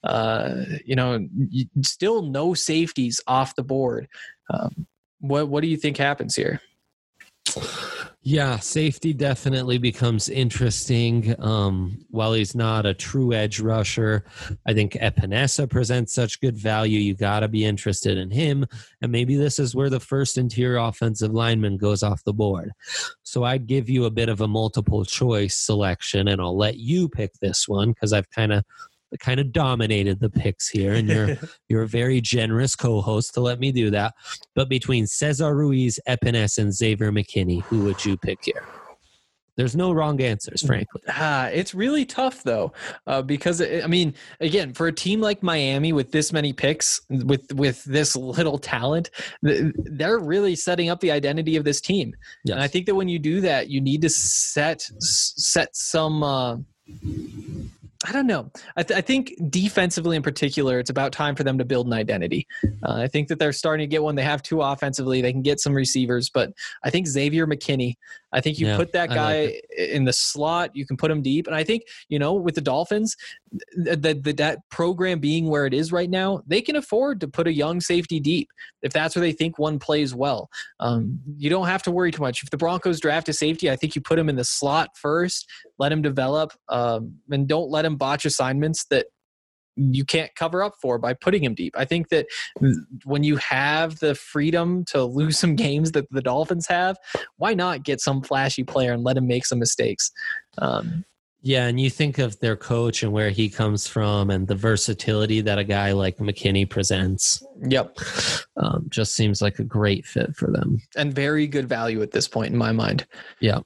[SPEAKER 2] Still no safeties off the board. What do you think happens here?
[SPEAKER 3] Yeah, safety definitely becomes interesting. While he's not a true edge rusher, I think Epinesa presents such good value. You got to be interested in him. And maybe this is where the first interior offensive lineman goes off the board. So I'd give you a bit of a multiple choice selection, and I'll let you pick this one because I've kind of dominated the picks here, and you're a very generous co-host to let me do that. But between Cesar Ruiz, Epinesa, and Xavier McKinney, who would you pick here? There's no wrong answers, frankly.
[SPEAKER 2] It's really tough, though, because, again, for a team like Miami with this many picks, with this little talent, they're really setting up the identity of this team. Yes. And I think that when you do that, you need to set some I don't know. I think defensively in particular, it's about time for them to build an identity. I think that they're starting to get one. They have two offensively. They can get some receivers. But I think Xavier McKinney, I think you put that guy in the slot. You can put him deep. And I think, with the Dolphins, that program being where it is right now, they can afford to put a young safety deep if that's where they think one plays well. You don't have to worry too much. If the Broncos draft a safety, I think you put him in the slot first, let him develop, and don't let him botch assignments that you can't cover up for by putting him deep. I think that when you have the freedom to lose some games that the Dolphins have, why not get some flashy player and let him make some mistakes?
[SPEAKER 3] Yeah, and you think of their coach and where he comes from and the versatility that a guy like McKinney presents.
[SPEAKER 2] Yep.
[SPEAKER 3] Just seems like a great fit for them.
[SPEAKER 2] And very good value at this point in my mind.
[SPEAKER 3] Yeah.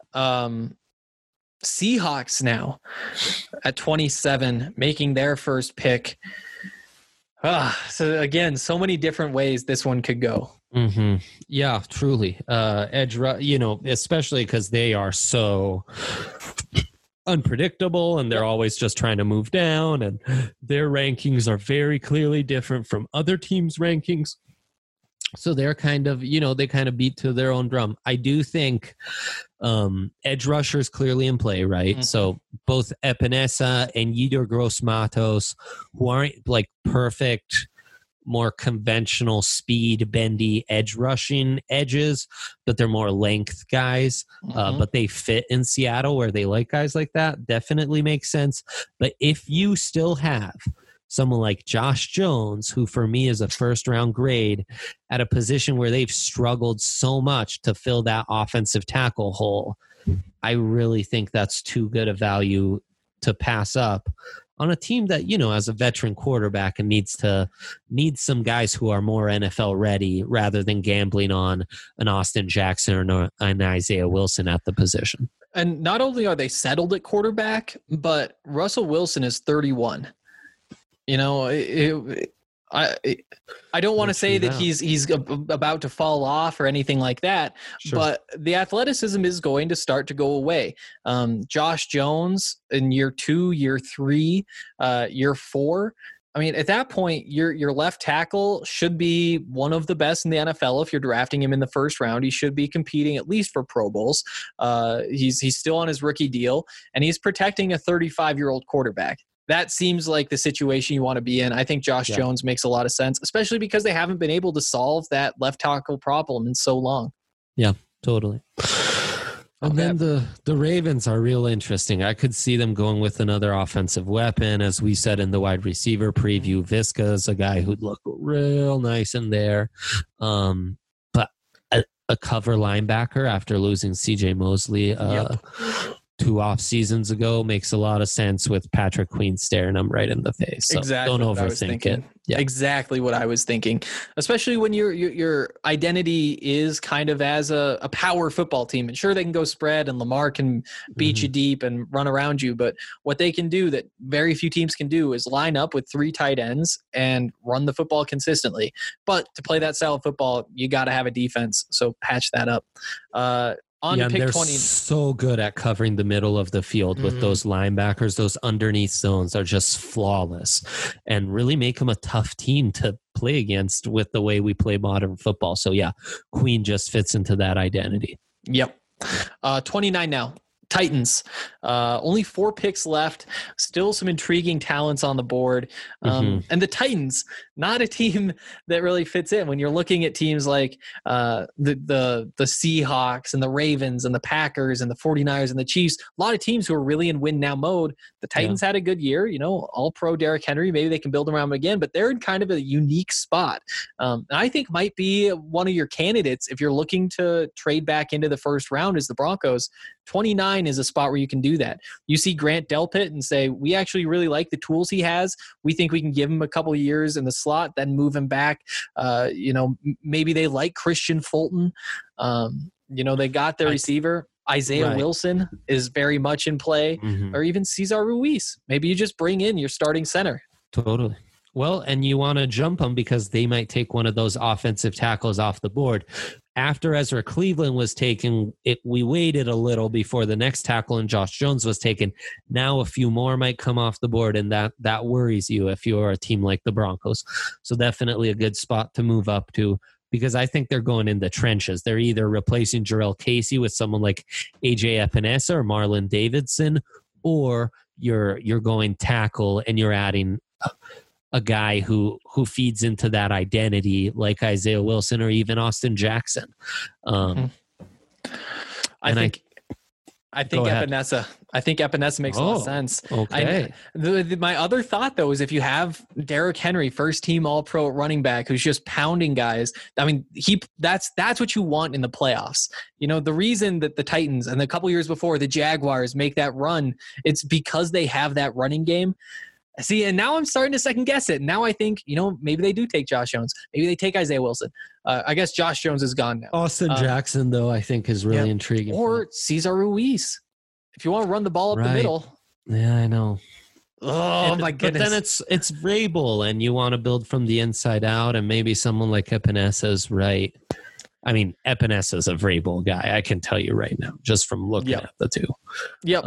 [SPEAKER 2] Seahawks now at 27, making their first pick. So again, so many different ways this one could go.
[SPEAKER 3] Mm-hmm. Yeah, truly. Edge, especially because they are so unpredictable and they're always just trying to move down, and their rankings are very clearly different from other teams' rankings. So they're kind of, they kind of beat to their own drum. I do think edge rushers clearly in play, right? Mm-hmm. So both Epinesa and Yetur Gross-Matos, who aren't like perfect, more conventional speed, bendy edge rushing edges, but they're more length guys. But they fit in Seattle where they like guys like that. Definitely makes sense. But if you still have someone like Josh Jones, who for me is a first round grade at a position where they've struggled so much to fill that offensive tackle hole, I really think that's too good a value to pass up on a team that, as a veteran quarterback and needs some guys who are more NFL ready rather than gambling on an Austin Jackson or an Isaiah Wilson at the position.
[SPEAKER 2] And not only are they settled at quarterback, but Russell Wilson is 31. I don't want to say that he's about to fall off or anything like that, sure. But the athleticism is going to start to go away. Josh Jones in year 2, year 3, year 4. I mean, at that point, your left tackle should be one of the best in the NFL. If you're drafting him in the first round, he should be competing at least for Pro Bowls. He's still on his rookie deal, and he's protecting a 35-year-old quarterback. That seems like the situation you want to be in. I think Josh Jones makes a lot of sense, especially because they haven't been able to solve that left tackle problem in so long.
[SPEAKER 3] Yeah, totally. And then the Ravens are real interesting. I could see them going with another offensive weapon. As we said in the wide receiver preview, Visca is a guy who'd look real nice in there. But a cover linebacker after losing C.J. Mosley 2 off seasons ago makes a lot of sense with Patrick Queen staring him right in the face. So
[SPEAKER 2] exactly.
[SPEAKER 3] Don't overthink it.
[SPEAKER 2] Yeah. Exactly what I was thinking, especially when your identity is kind of as a power football team. And sure, they can go spread and Lamar can beat you deep and run around you. But what they can do that very few teams can do is line up with 3 tight ends and run the football consistently. But to play that style of football, you got to have a defense. So patch that up. To pick
[SPEAKER 3] they're
[SPEAKER 2] 20.
[SPEAKER 3] So good at covering the middle of the field with those linebackers. Those underneath zones are just flawless and really make them a tough team to play against with the way we play modern football. So yeah, Queen just fits into that identity.
[SPEAKER 2] Yep. 29 now. Titans, only 4 picks left, still some intriguing talents on the board. And the Titans, not a team that really fits in when you're looking at teams like the Seahawks and the Ravens and the Packers and the 49ers and the Chiefs, a lot of teams who are really in win now mode. The Titans had a good year, all pro Derrick Henry. Maybe they can build around him again, but they're in kind of a unique spot. And I think might be one of your candidates if you're looking to trade back into the first round is the Broncos. 29 is a spot where you can do that. You see Grant Delpit and say, we actually really like the tools he has. We think we can give him a couple of years in the slot, then move him back. Maybe they like Christian Fulton. They got their receiver. Isaiah Wilson is very much in play, or even Cesar Ruiz. Maybe you just bring in your starting center.
[SPEAKER 3] Totally. Well, and you want to jump them because they might take one of those offensive tackles off the board. After Ezra Cleveland was taken, we waited a little before the next tackle and Josh Jones was taken. Now a few more might come off the board, and that worries you if you're a team like the Broncos. So definitely a good spot to move up to, because I think they're going in the trenches. They're either replacing Jarrell Casey with someone like A.J. Epinesa or Marlon Davidson, or you're going tackle and you're adding a guy who feeds into that identity like Isaiah Wilson or even Austin Jackson.
[SPEAKER 2] I think Epinesa. I think Epinesa makes a lot of sense.
[SPEAKER 3] Okay.
[SPEAKER 2] My other thought, though, is if you have Derrick Henry, first team All-Pro running back, who's just pounding guys. I mean, that's what you want in the playoffs. The reason that the Titans and the couple years before the Jaguars make that run, it's because they have that running game. See, and now I'm starting to second guess it. Now I think, maybe they do take Josh Jones. Maybe they take Isaiah Wilson. I guess Josh Jones is gone now.
[SPEAKER 3] Austin Jackson, though, I think is really intriguing.
[SPEAKER 2] Or Cesar Ruiz. If you want to run the ball up the middle.
[SPEAKER 3] Yeah, I know.
[SPEAKER 2] Oh, my goodness.
[SPEAKER 3] But then it's Vrabel, and you want to build from the inside out, and maybe someone like Epinesa is right. I mean, Epinesa is a Vrabel guy. I can tell you right now, just from looking at the two.
[SPEAKER 2] Yep.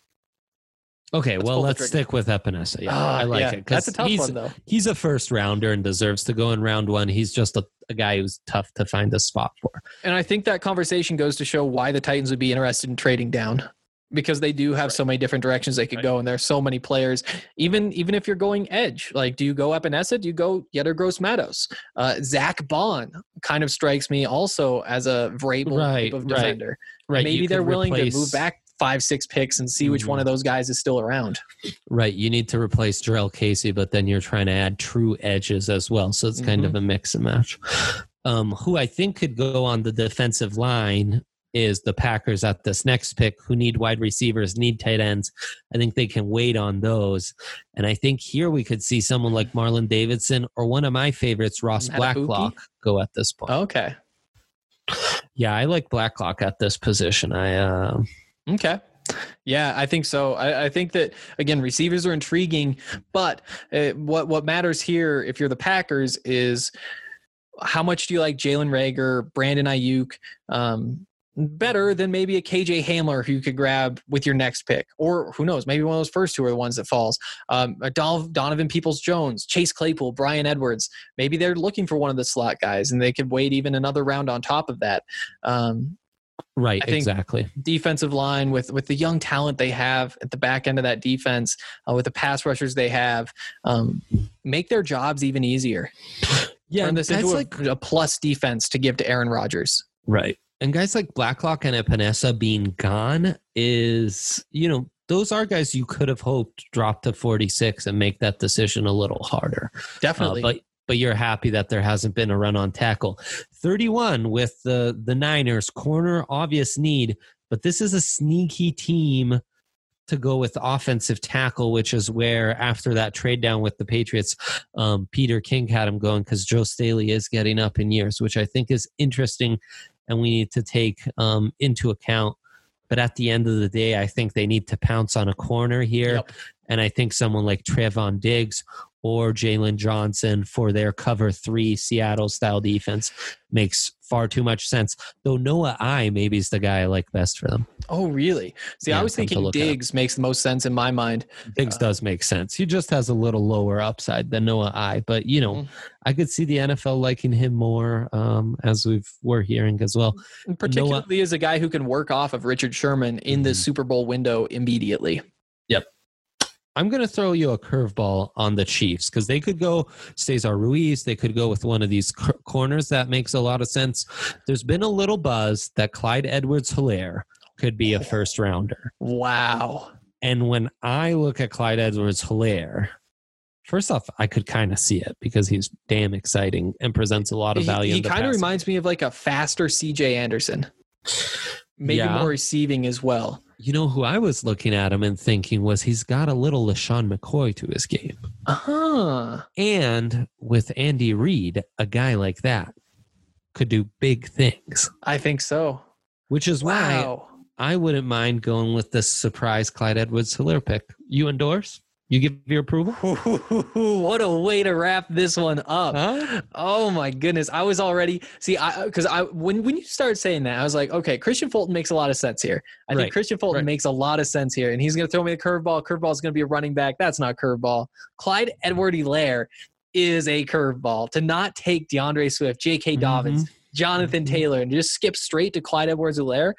[SPEAKER 3] Okay, let's stick with Epinesa. Yeah, I like it.
[SPEAKER 2] That's a tough one, though.
[SPEAKER 3] He's a first rounder and deserves to go in round 1. He's just a guy who's tough to find a spot for.
[SPEAKER 2] And I think that conversation goes to show why the Titans would be interested in trading down, because they do have so many different directions they could go, and there's so many players. Even if you're going edge, like, do you go Epinesa? Do you go Yetur Gross-Matos? Zach Bond kind of strikes me also as a Vrabel type of defender.
[SPEAKER 3] Right.
[SPEAKER 2] Maybe they're willing to move back 5-6 picks and see which one of those guys is still around.
[SPEAKER 3] Right. You need to replace Jarrell Casey, but then you're trying to add true edges as well. So it's kind of a mix and match. Who I think could go on the defensive line is the Packers at this next pick, who need wide receivers, need tight ends. I think they can wait on those. And I think here we could see someone like Marlon Davidson or one of my favorites, Ross Blacklock, go at this point.
[SPEAKER 2] Okay.
[SPEAKER 3] Yeah, I like Blacklock at this position.
[SPEAKER 2] Okay. Yeah, I think so. I think that, again, receivers are intriguing, but what matters here, if you're the Packers, is how much do you like Jalen Reagor, Brandon Ayuk, better than maybe a KJ Hamler who you could grab with your next pick, or who knows, maybe one of those first two are the ones that falls. Donovan Peoples-Jones, Chase Claypool, Bryan Edwards. Maybe they're looking for one of the slot guys, and they could wait even another round on top of that.
[SPEAKER 3] Right,
[SPEAKER 2] I think
[SPEAKER 3] exactly.
[SPEAKER 2] Defensive line with the young talent they have at the back end of that defense, with the pass rushers they have, make their jobs even easier.
[SPEAKER 3] Yeah,
[SPEAKER 2] Turn this into a plus defense to give to Aaron Rodgers.
[SPEAKER 3] Right. And guys like Blacklock and Epinesa being gone is, those are guys you could have hoped drop to 46 and make that decision a little harder.
[SPEAKER 2] Definitely.
[SPEAKER 3] But you're happy that there hasn't been a run on tackle. 31 with the Niners, corner, obvious need, but this is a sneaky team to go with offensive tackle, which is where after that trade down with the Patriots, Peter King had him going because Joe Staley is getting up in years, which I think is interesting and we need to take into account. But at the end of the day, I think they need to pounce on a corner here.
[SPEAKER 2] Yep.
[SPEAKER 3] And I think someone like Trevon Diggs or Jalen Johnson for their cover 3 Seattle-style defense makes far too much sense. Though Noah I maybe is the guy I like best for them.
[SPEAKER 2] Oh, really? See,
[SPEAKER 3] Yeah,
[SPEAKER 2] I was thinking Diggs makes the most sense in my mind.
[SPEAKER 3] Diggs does make sense. He just has a little lower upside than Noah I. But, I could see the NFL liking him more, as we're hearing as well.
[SPEAKER 2] Particularly as a guy who can work off of Richard Sherman in the Super Bowl window immediately.
[SPEAKER 3] Yep. I'm going to throw you a curveball on the Chiefs because they could go Cesar Ruiz. They could go with one of these corners. That makes a lot of sense. There's been a little buzz that Clyde Edwards-Helaire could be a first rounder.
[SPEAKER 2] Wow.
[SPEAKER 3] And when I look at Clyde Edwards-Helaire, first off, I could kind of see it because he's damn exciting and presents a lot of value.
[SPEAKER 2] He kind of reminds me of like a faster CJ Anderson. Maybe more receiving as well.
[SPEAKER 3] You know who I was looking at him and thinking was he's got a little LaShawn McCoy to his game.
[SPEAKER 2] Uh-huh.
[SPEAKER 3] And with Andy Reid, a guy like that could do big things.
[SPEAKER 2] I think so.
[SPEAKER 3] Which is why I wouldn't mind going with this surprise Clyde Edwards-Helaire pick. You endorse? You give your approval?
[SPEAKER 2] What a way to wrap this one up.
[SPEAKER 3] Huh?
[SPEAKER 2] Oh my goodness. I was already when you start saying that, I was like, okay, Christian Fulton makes a lot of sense here. I think Christian Fulton makes a lot of sense here. And he's going to throw me the curveball. Curveball is going to be a running back. That's not curveball. Clyde Edwards-Helaire is a curveball. To not take DeAndre Swift, J.K. Dobbins, Jonathan Taylor, and just skip straight to Clyde Edwards-Helaire.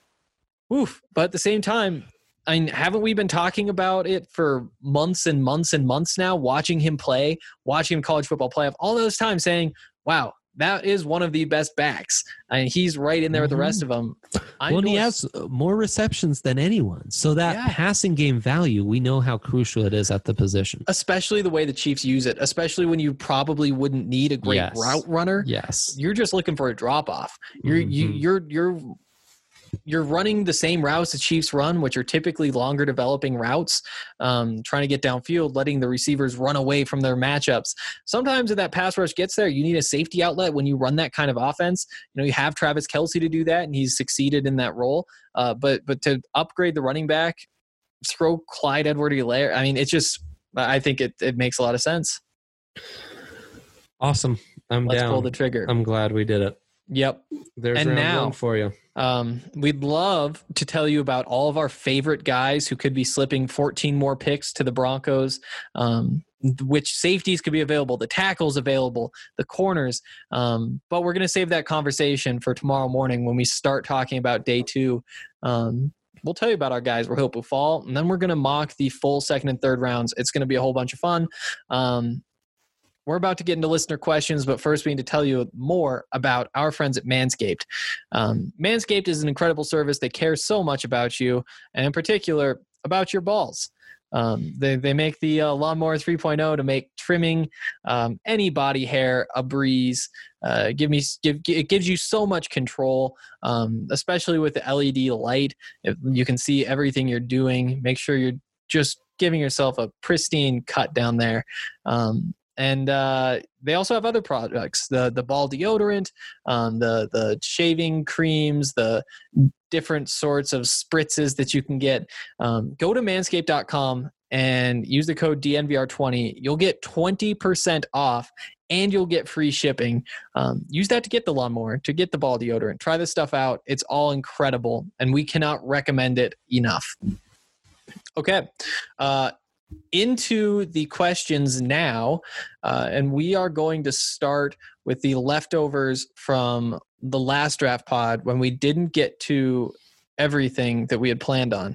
[SPEAKER 2] Oof. But at the same time, I mean, haven't we been talking about it for months and months and months now, watching him play, watching him college football playoff, all those times saying, wow, that is one of the best backs. I mean, he's right in there with the rest of them.
[SPEAKER 3] And he has more receptions than anyone. So that passing game value, we know how crucial it is at the position.
[SPEAKER 2] Especially the way the Chiefs use it, especially when you probably wouldn't need a great route runner.
[SPEAKER 3] Yes.
[SPEAKER 2] You're just looking for a drop-off. You're running the same routes the Chiefs run, which are typically longer developing routes, trying to get downfield, letting the receivers run away from their matchups. Sometimes if that pass rush gets there, you need a safety outlet when you run that kind of offense. You have Travis Kelce to do that, and he's succeeded in that role. But to upgrade the running back, throw Clyde Edwards-Helaire. I mean, I think it makes a lot of sense.
[SPEAKER 3] Awesome.
[SPEAKER 2] Let's pull the trigger.
[SPEAKER 3] I'm glad we did it.
[SPEAKER 2] Yep.
[SPEAKER 3] There's round one for you.
[SPEAKER 2] We'd love to tell you about all of our favorite guys who could be slipping 14 more picks to the Broncos, which safeties could be available, the tackles available, the corners. But we're going to save that conversation for tomorrow morning when we start talking about day 2. We'll tell you about our guys we're hoping fall, and then we're going to mock the full second and third rounds. It's going to be a whole bunch of fun. We're about to get into listener questions, but first we need to tell you more about our friends at Manscaped. Manscaped is an incredible service. They care so much about you, and in particular, about your balls. They make the Lawnmower 3.0 to make trimming any body hair a breeze. It gives you so much control, especially with the LED light. You can see everything you're doing. Make sure you're just giving yourself a pristine cut down there. And they also have other products, the ball deodorant, the shaving creams, the different sorts of spritzes that you can get. Go to manscaped.com and use the code DNVR20. You'll get 20% off and you'll get free shipping. Use that to get the lawnmower, to get the ball deodorant. Try this stuff out. It's all incredible, and we cannot recommend it enough. Okay. Into the questions now, and we are going to start with the leftovers from the last draft pod when we didn't get to everything that we had planned on.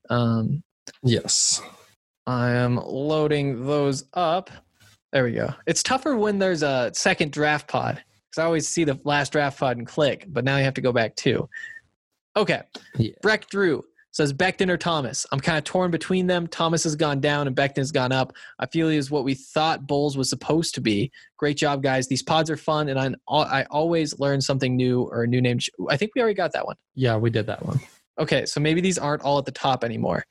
[SPEAKER 3] Yes.
[SPEAKER 2] I am loading those up. There we go. It's tougher when there's a second draft pod because I always see the last draft pod and click, but now you have to go back too. Okay.
[SPEAKER 3] Yeah.
[SPEAKER 2] Breck Drew says Becton or Thomas. I'm kind of torn between them. Thomas has gone down and Becton has gone up. I feel he is what we thought Bulls was supposed to be. Great job, guys. These pods are fun, and I always learn something new or a new name. I think we already got that one.
[SPEAKER 3] Yeah, we did that one.
[SPEAKER 2] Okay, so maybe these aren't all at the top anymore.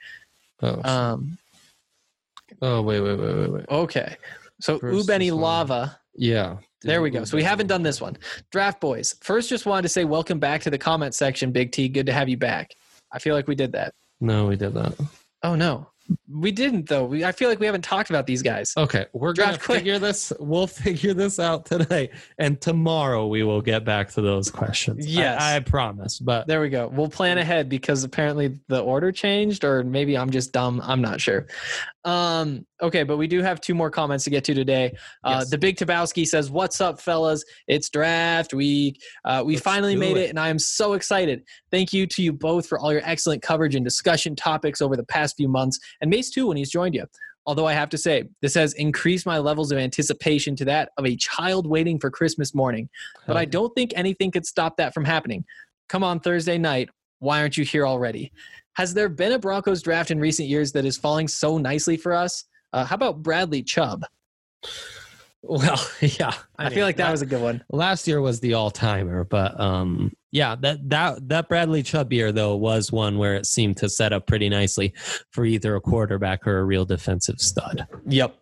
[SPEAKER 3] Wait.
[SPEAKER 2] Okay. So
[SPEAKER 3] First
[SPEAKER 2] Ubeni
[SPEAKER 3] is one.
[SPEAKER 2] Lava.
[SPEAKER 3] Yeah.
[SPEAKER 2] There we go. So we haven't done this one. Draft Boys. First, just wanted to say welcome back to the comment section, Big T. Good to have you back. I feel like we did that.
[SPEAKER 3] No, we did that.
[SPEAKER 2] Oh, no. We didn't, though. I feel like we haven't talked about these guys.
[SPEAKER 3] Okay, we're going to figure this. We'll figure this out today. And tomorrow we will get back to those questions.
[SPEAKER 2] Yes.
[SPEAKER 3] I promise. But
[SPEAKER 2] there we go. We'll plan ahead because apparently the order changed, or maybe I'm just dumb. I'm not sure. Okay, but we do have two more comments to get to today.
[SPEAKER 3] Yes.
[SPEAKER 2] The Big Tabowski says, "What's up, fellas? It's draft week. We finally made it, and I am so excited. Thank you to you both for all your excellent coverage and discussion topics over the past few months, and Mace too when he's joined you. Although I have to say, this has increased my levels of anticipation to that of a child waiting for Christmas morning. But I don't think anything could stop that from happening. Come on Thursday night. Why aren't you here already? Has there been a Broncos draft in recent years that is falling so nicely for us? How about Bradley Chubb?"
[SPEAKER 3] Well, yeah.
[SPEAKER 2] I feel like that was a good one.
[SPEAKER 3] Last year was the all-timer, but yeah, that Bradley Chubb year, though, was one where it seemed to set up pretty nicely for either a quarterback or a real defensive stud.
[SPEAKER 2] Yep.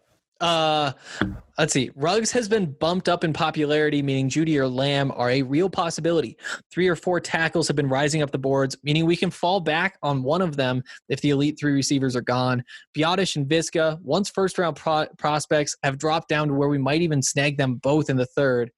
[SPEAKER 2] Let's see. Ruggs has been bumped up in popularity, meaning Judy or Lamb are a real possibility. 3 or 4 tackles have been rising up the boards, meaning we can fall back on one of them if the elite 3 receivers are gone. Biotish and Visca, once first-round prospects, have dropped down to where we might even snag them both in the third.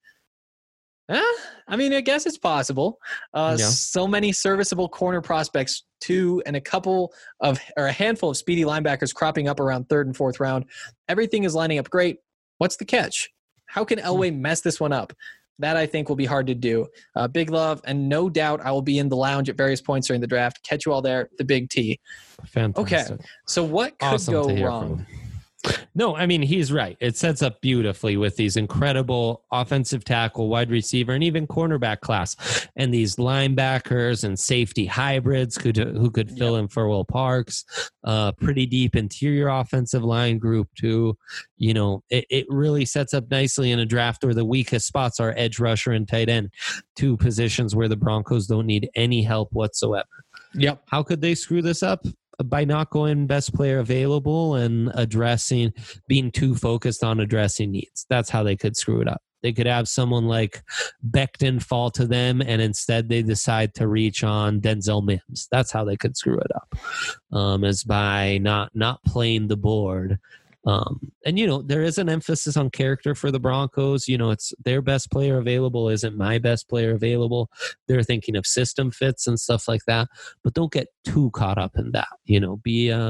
[SPEAKER 2] I mean, I guess it's possible. So many serviceable corner prospects, 2 and a handful of speedy linebackers cropping up around 3rd and 4th round. Everything is lining up great. What's the catch? How can Elway mess this one up? That I think will be hard to do. Big love, and no doubt I will be in the lounge at various points during the draft. Catch you all there, the Big T.
[SPEAKER 3] Fantastic.
[SPEAKER 2] Okay, so what could go wrong?
[SPEAKER 3] No, I mean, he's right. It sets up beautifully with these incredible offensive tackle, wide receiver, and even cornerback class. And these linebackers and safety hybrids who could fill in for Will Parks. Pretty deep interior offensive line group, too. You know, it really sets up nicely in a draft where the weakest spots are edge rusher and tight end, 2 positions where the Broncos don't need any help whatsoever.
[SPEAKER 2] Yep.
[SPEAKER 3] How could they screw this up? By not going best player available and being too focused on addressing needs. That's how they could screw it up. They could have someone like Becton fall to them, and instead they decide to reach on Denzel Mims. That's how they could screw it up, is by not playing the board. And, you know, there is an emphasis on character for the Broncos. You know, it's their best player available isn't my best player available. They're thinking of system fits and stuff like that. But don't get too caught up in that. You know,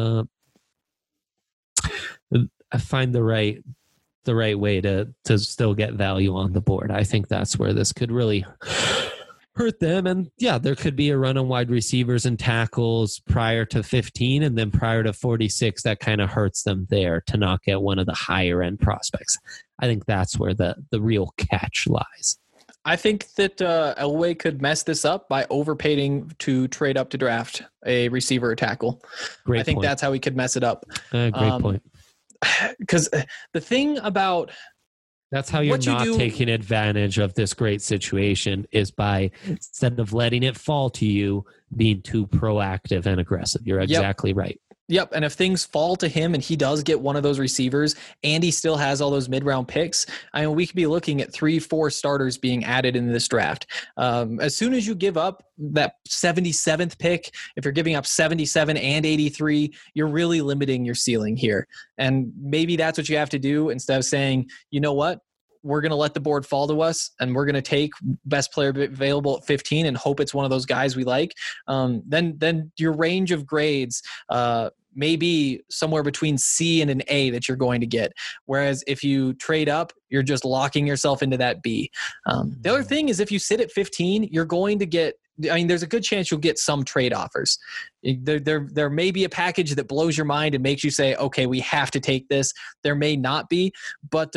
[SPEAKER 3] find the right way to still get value on the board. I think that's where this could really hurt them. And yeah, there could be a run on wide receivers and tackles prior to 15, and then prior to 46, that kind of hurts them there to not get one of the higher end prospects. I think that's where the real catch lies.
[SPEAKER 2] I think that Elway could mess this up by overpaying to trade up to draft a receiver or tackle. I think that's how he could mess it up.
[SPEAKER 3] Great point.
[SPEAKER 2] Because the thing about
[SPEAKER 3] That's how you're
[SPEAKER 2] What you
[SPEAKER 3] not
[SPEAKER 2] do-
[SPEAKER 3] taking advantage of this great situation, is by, instead of letting it fall to you, being too proactive and aggressive. You're exactly right.
[SPEAKER 2] Yep. And if things fall to him and he does get one of those receivers and he still has all those mid-round picks, I mean, we could be looking at 3-4 starters being added in this draft. As soon as you give up that 77th pick, if you're giving up 77 and 83, you're really limiting your ceiling here. And maybe that's what you have to do instead of saying, you know what? We're going to let the board fall to us and we're going to take best player available at 15 and hope it's one of those guys we like. Then your range of grades may be somewhere between C and an A that you're going to get. Whereas if you trade up, you're just locking yourself into that B. The other thing is if you sit at 15, you're going to get, I mean, there's a good chance you'll get some trade offers. There may be a package that blows your mind and makes you say, okay, we have to take this. There may not be, but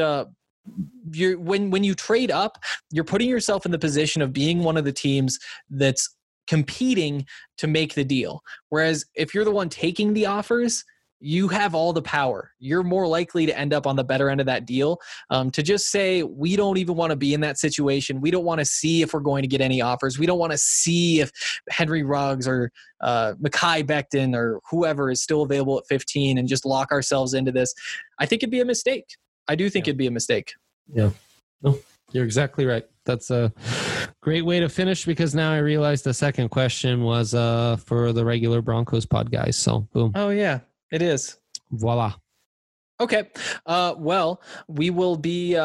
[SPEAKER 2] when you trade up, you're putting yourself in the position of being one of the teams that's competing to make the deal. Whereas if you're the one taking the offers, you have all the power. You're more likely to end up on the better end of that deal. To just say, we don't even want to be in that situation. We don't want to see if we're going to get any offers. We don't want to see if Henry Ruggs or Mekhi Becton or whoever is still available at 15 and just lock ourselves into this. I think it'd be a mistake. I do think it'd be a mistake.
[SPEAKER 3] Yeah. No, you're exactly right. That's a great way to finish, because now I realize the second question was for the regular Broncos pod guys. So boom.
[SPEAKER 2] Oh yeah, it is.
[SPEAKER 3] Voila.
[SPEAKER 2] Okay. Well, we will be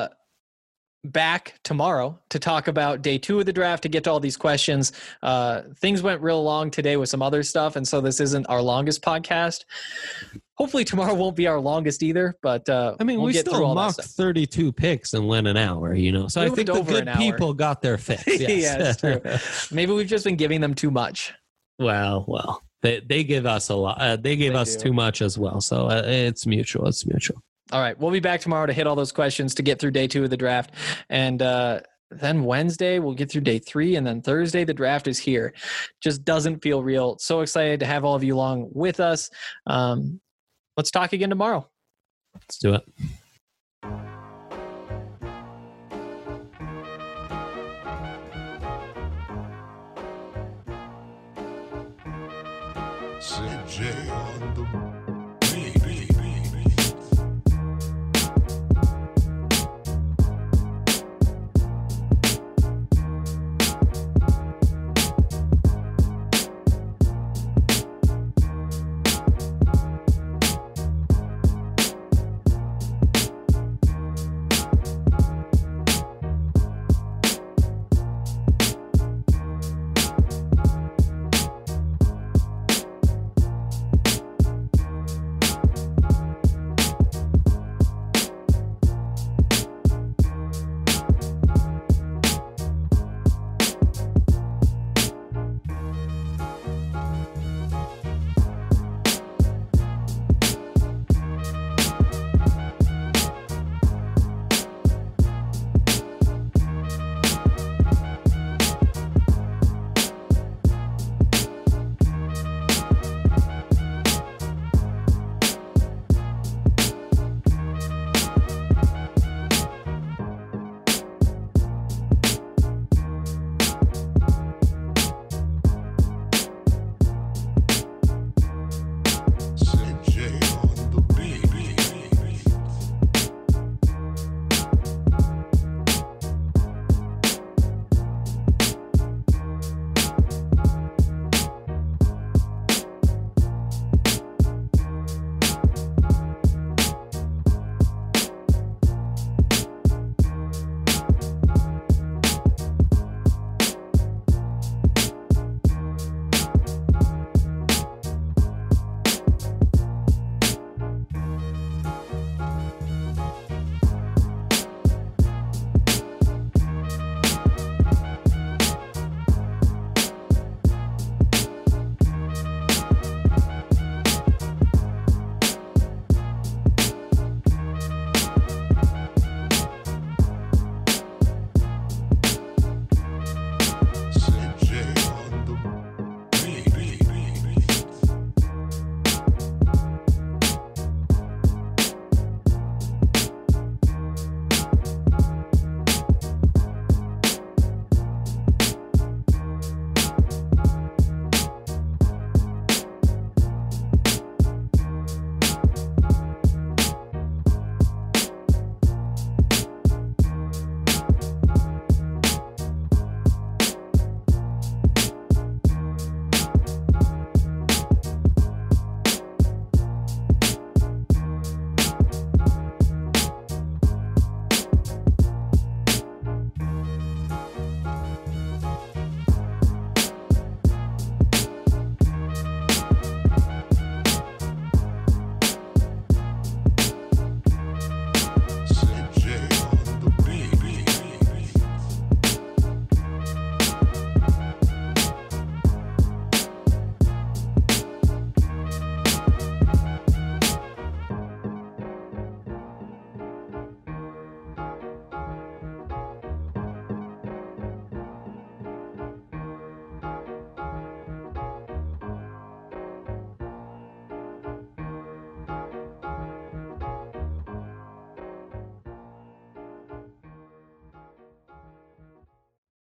[SPEAKER 2] back tomorrow to talk about day 2 of the draft, to get to all these questions. Things went real long today with some other stuff, and so this isn't our longest podcast. Hopefully tomorrow won't be our longest either, but
[SPEAKER 3] I mean,
[SPEAKER 2] we'll
[SPEAKER 3] we
[SPEAKER 2] get
[SPEAKER 3] still
[SPEAKER 2] through all
[SPEAKER 3] mocked
[SPEAKER 2] that stuff.
[SPEAKER 3] 32 picks and went an hour, So I
[SPEAKER 2] Moved
[SPEAKER 3] think the
[SPEAKER 2] over
[SPEAKER 3] good
[SPEAKER 2] an hour.
[SPEAKER 3] people got their fix. Yes.
[SPEAKER 2] Yeah, it's true. Maybe we've just been giving them too much.
[SPEAKER 3] Well, they give us a lot. They give us too much as well. So it's mutual. It's mutual.
[SPEAKER 2] All right. We'll be back tomorrow to hit all those questions to get through day 2 of the draft. And then Wednesday, we'll get through day 3. And then Thursday, the draft is here. Just doesn't feel real. So excited to have all of you along with us. Let's talk again tomorrow.
[SPEAKER 3] Let's do it.
[SPEAKER 1] CJ on the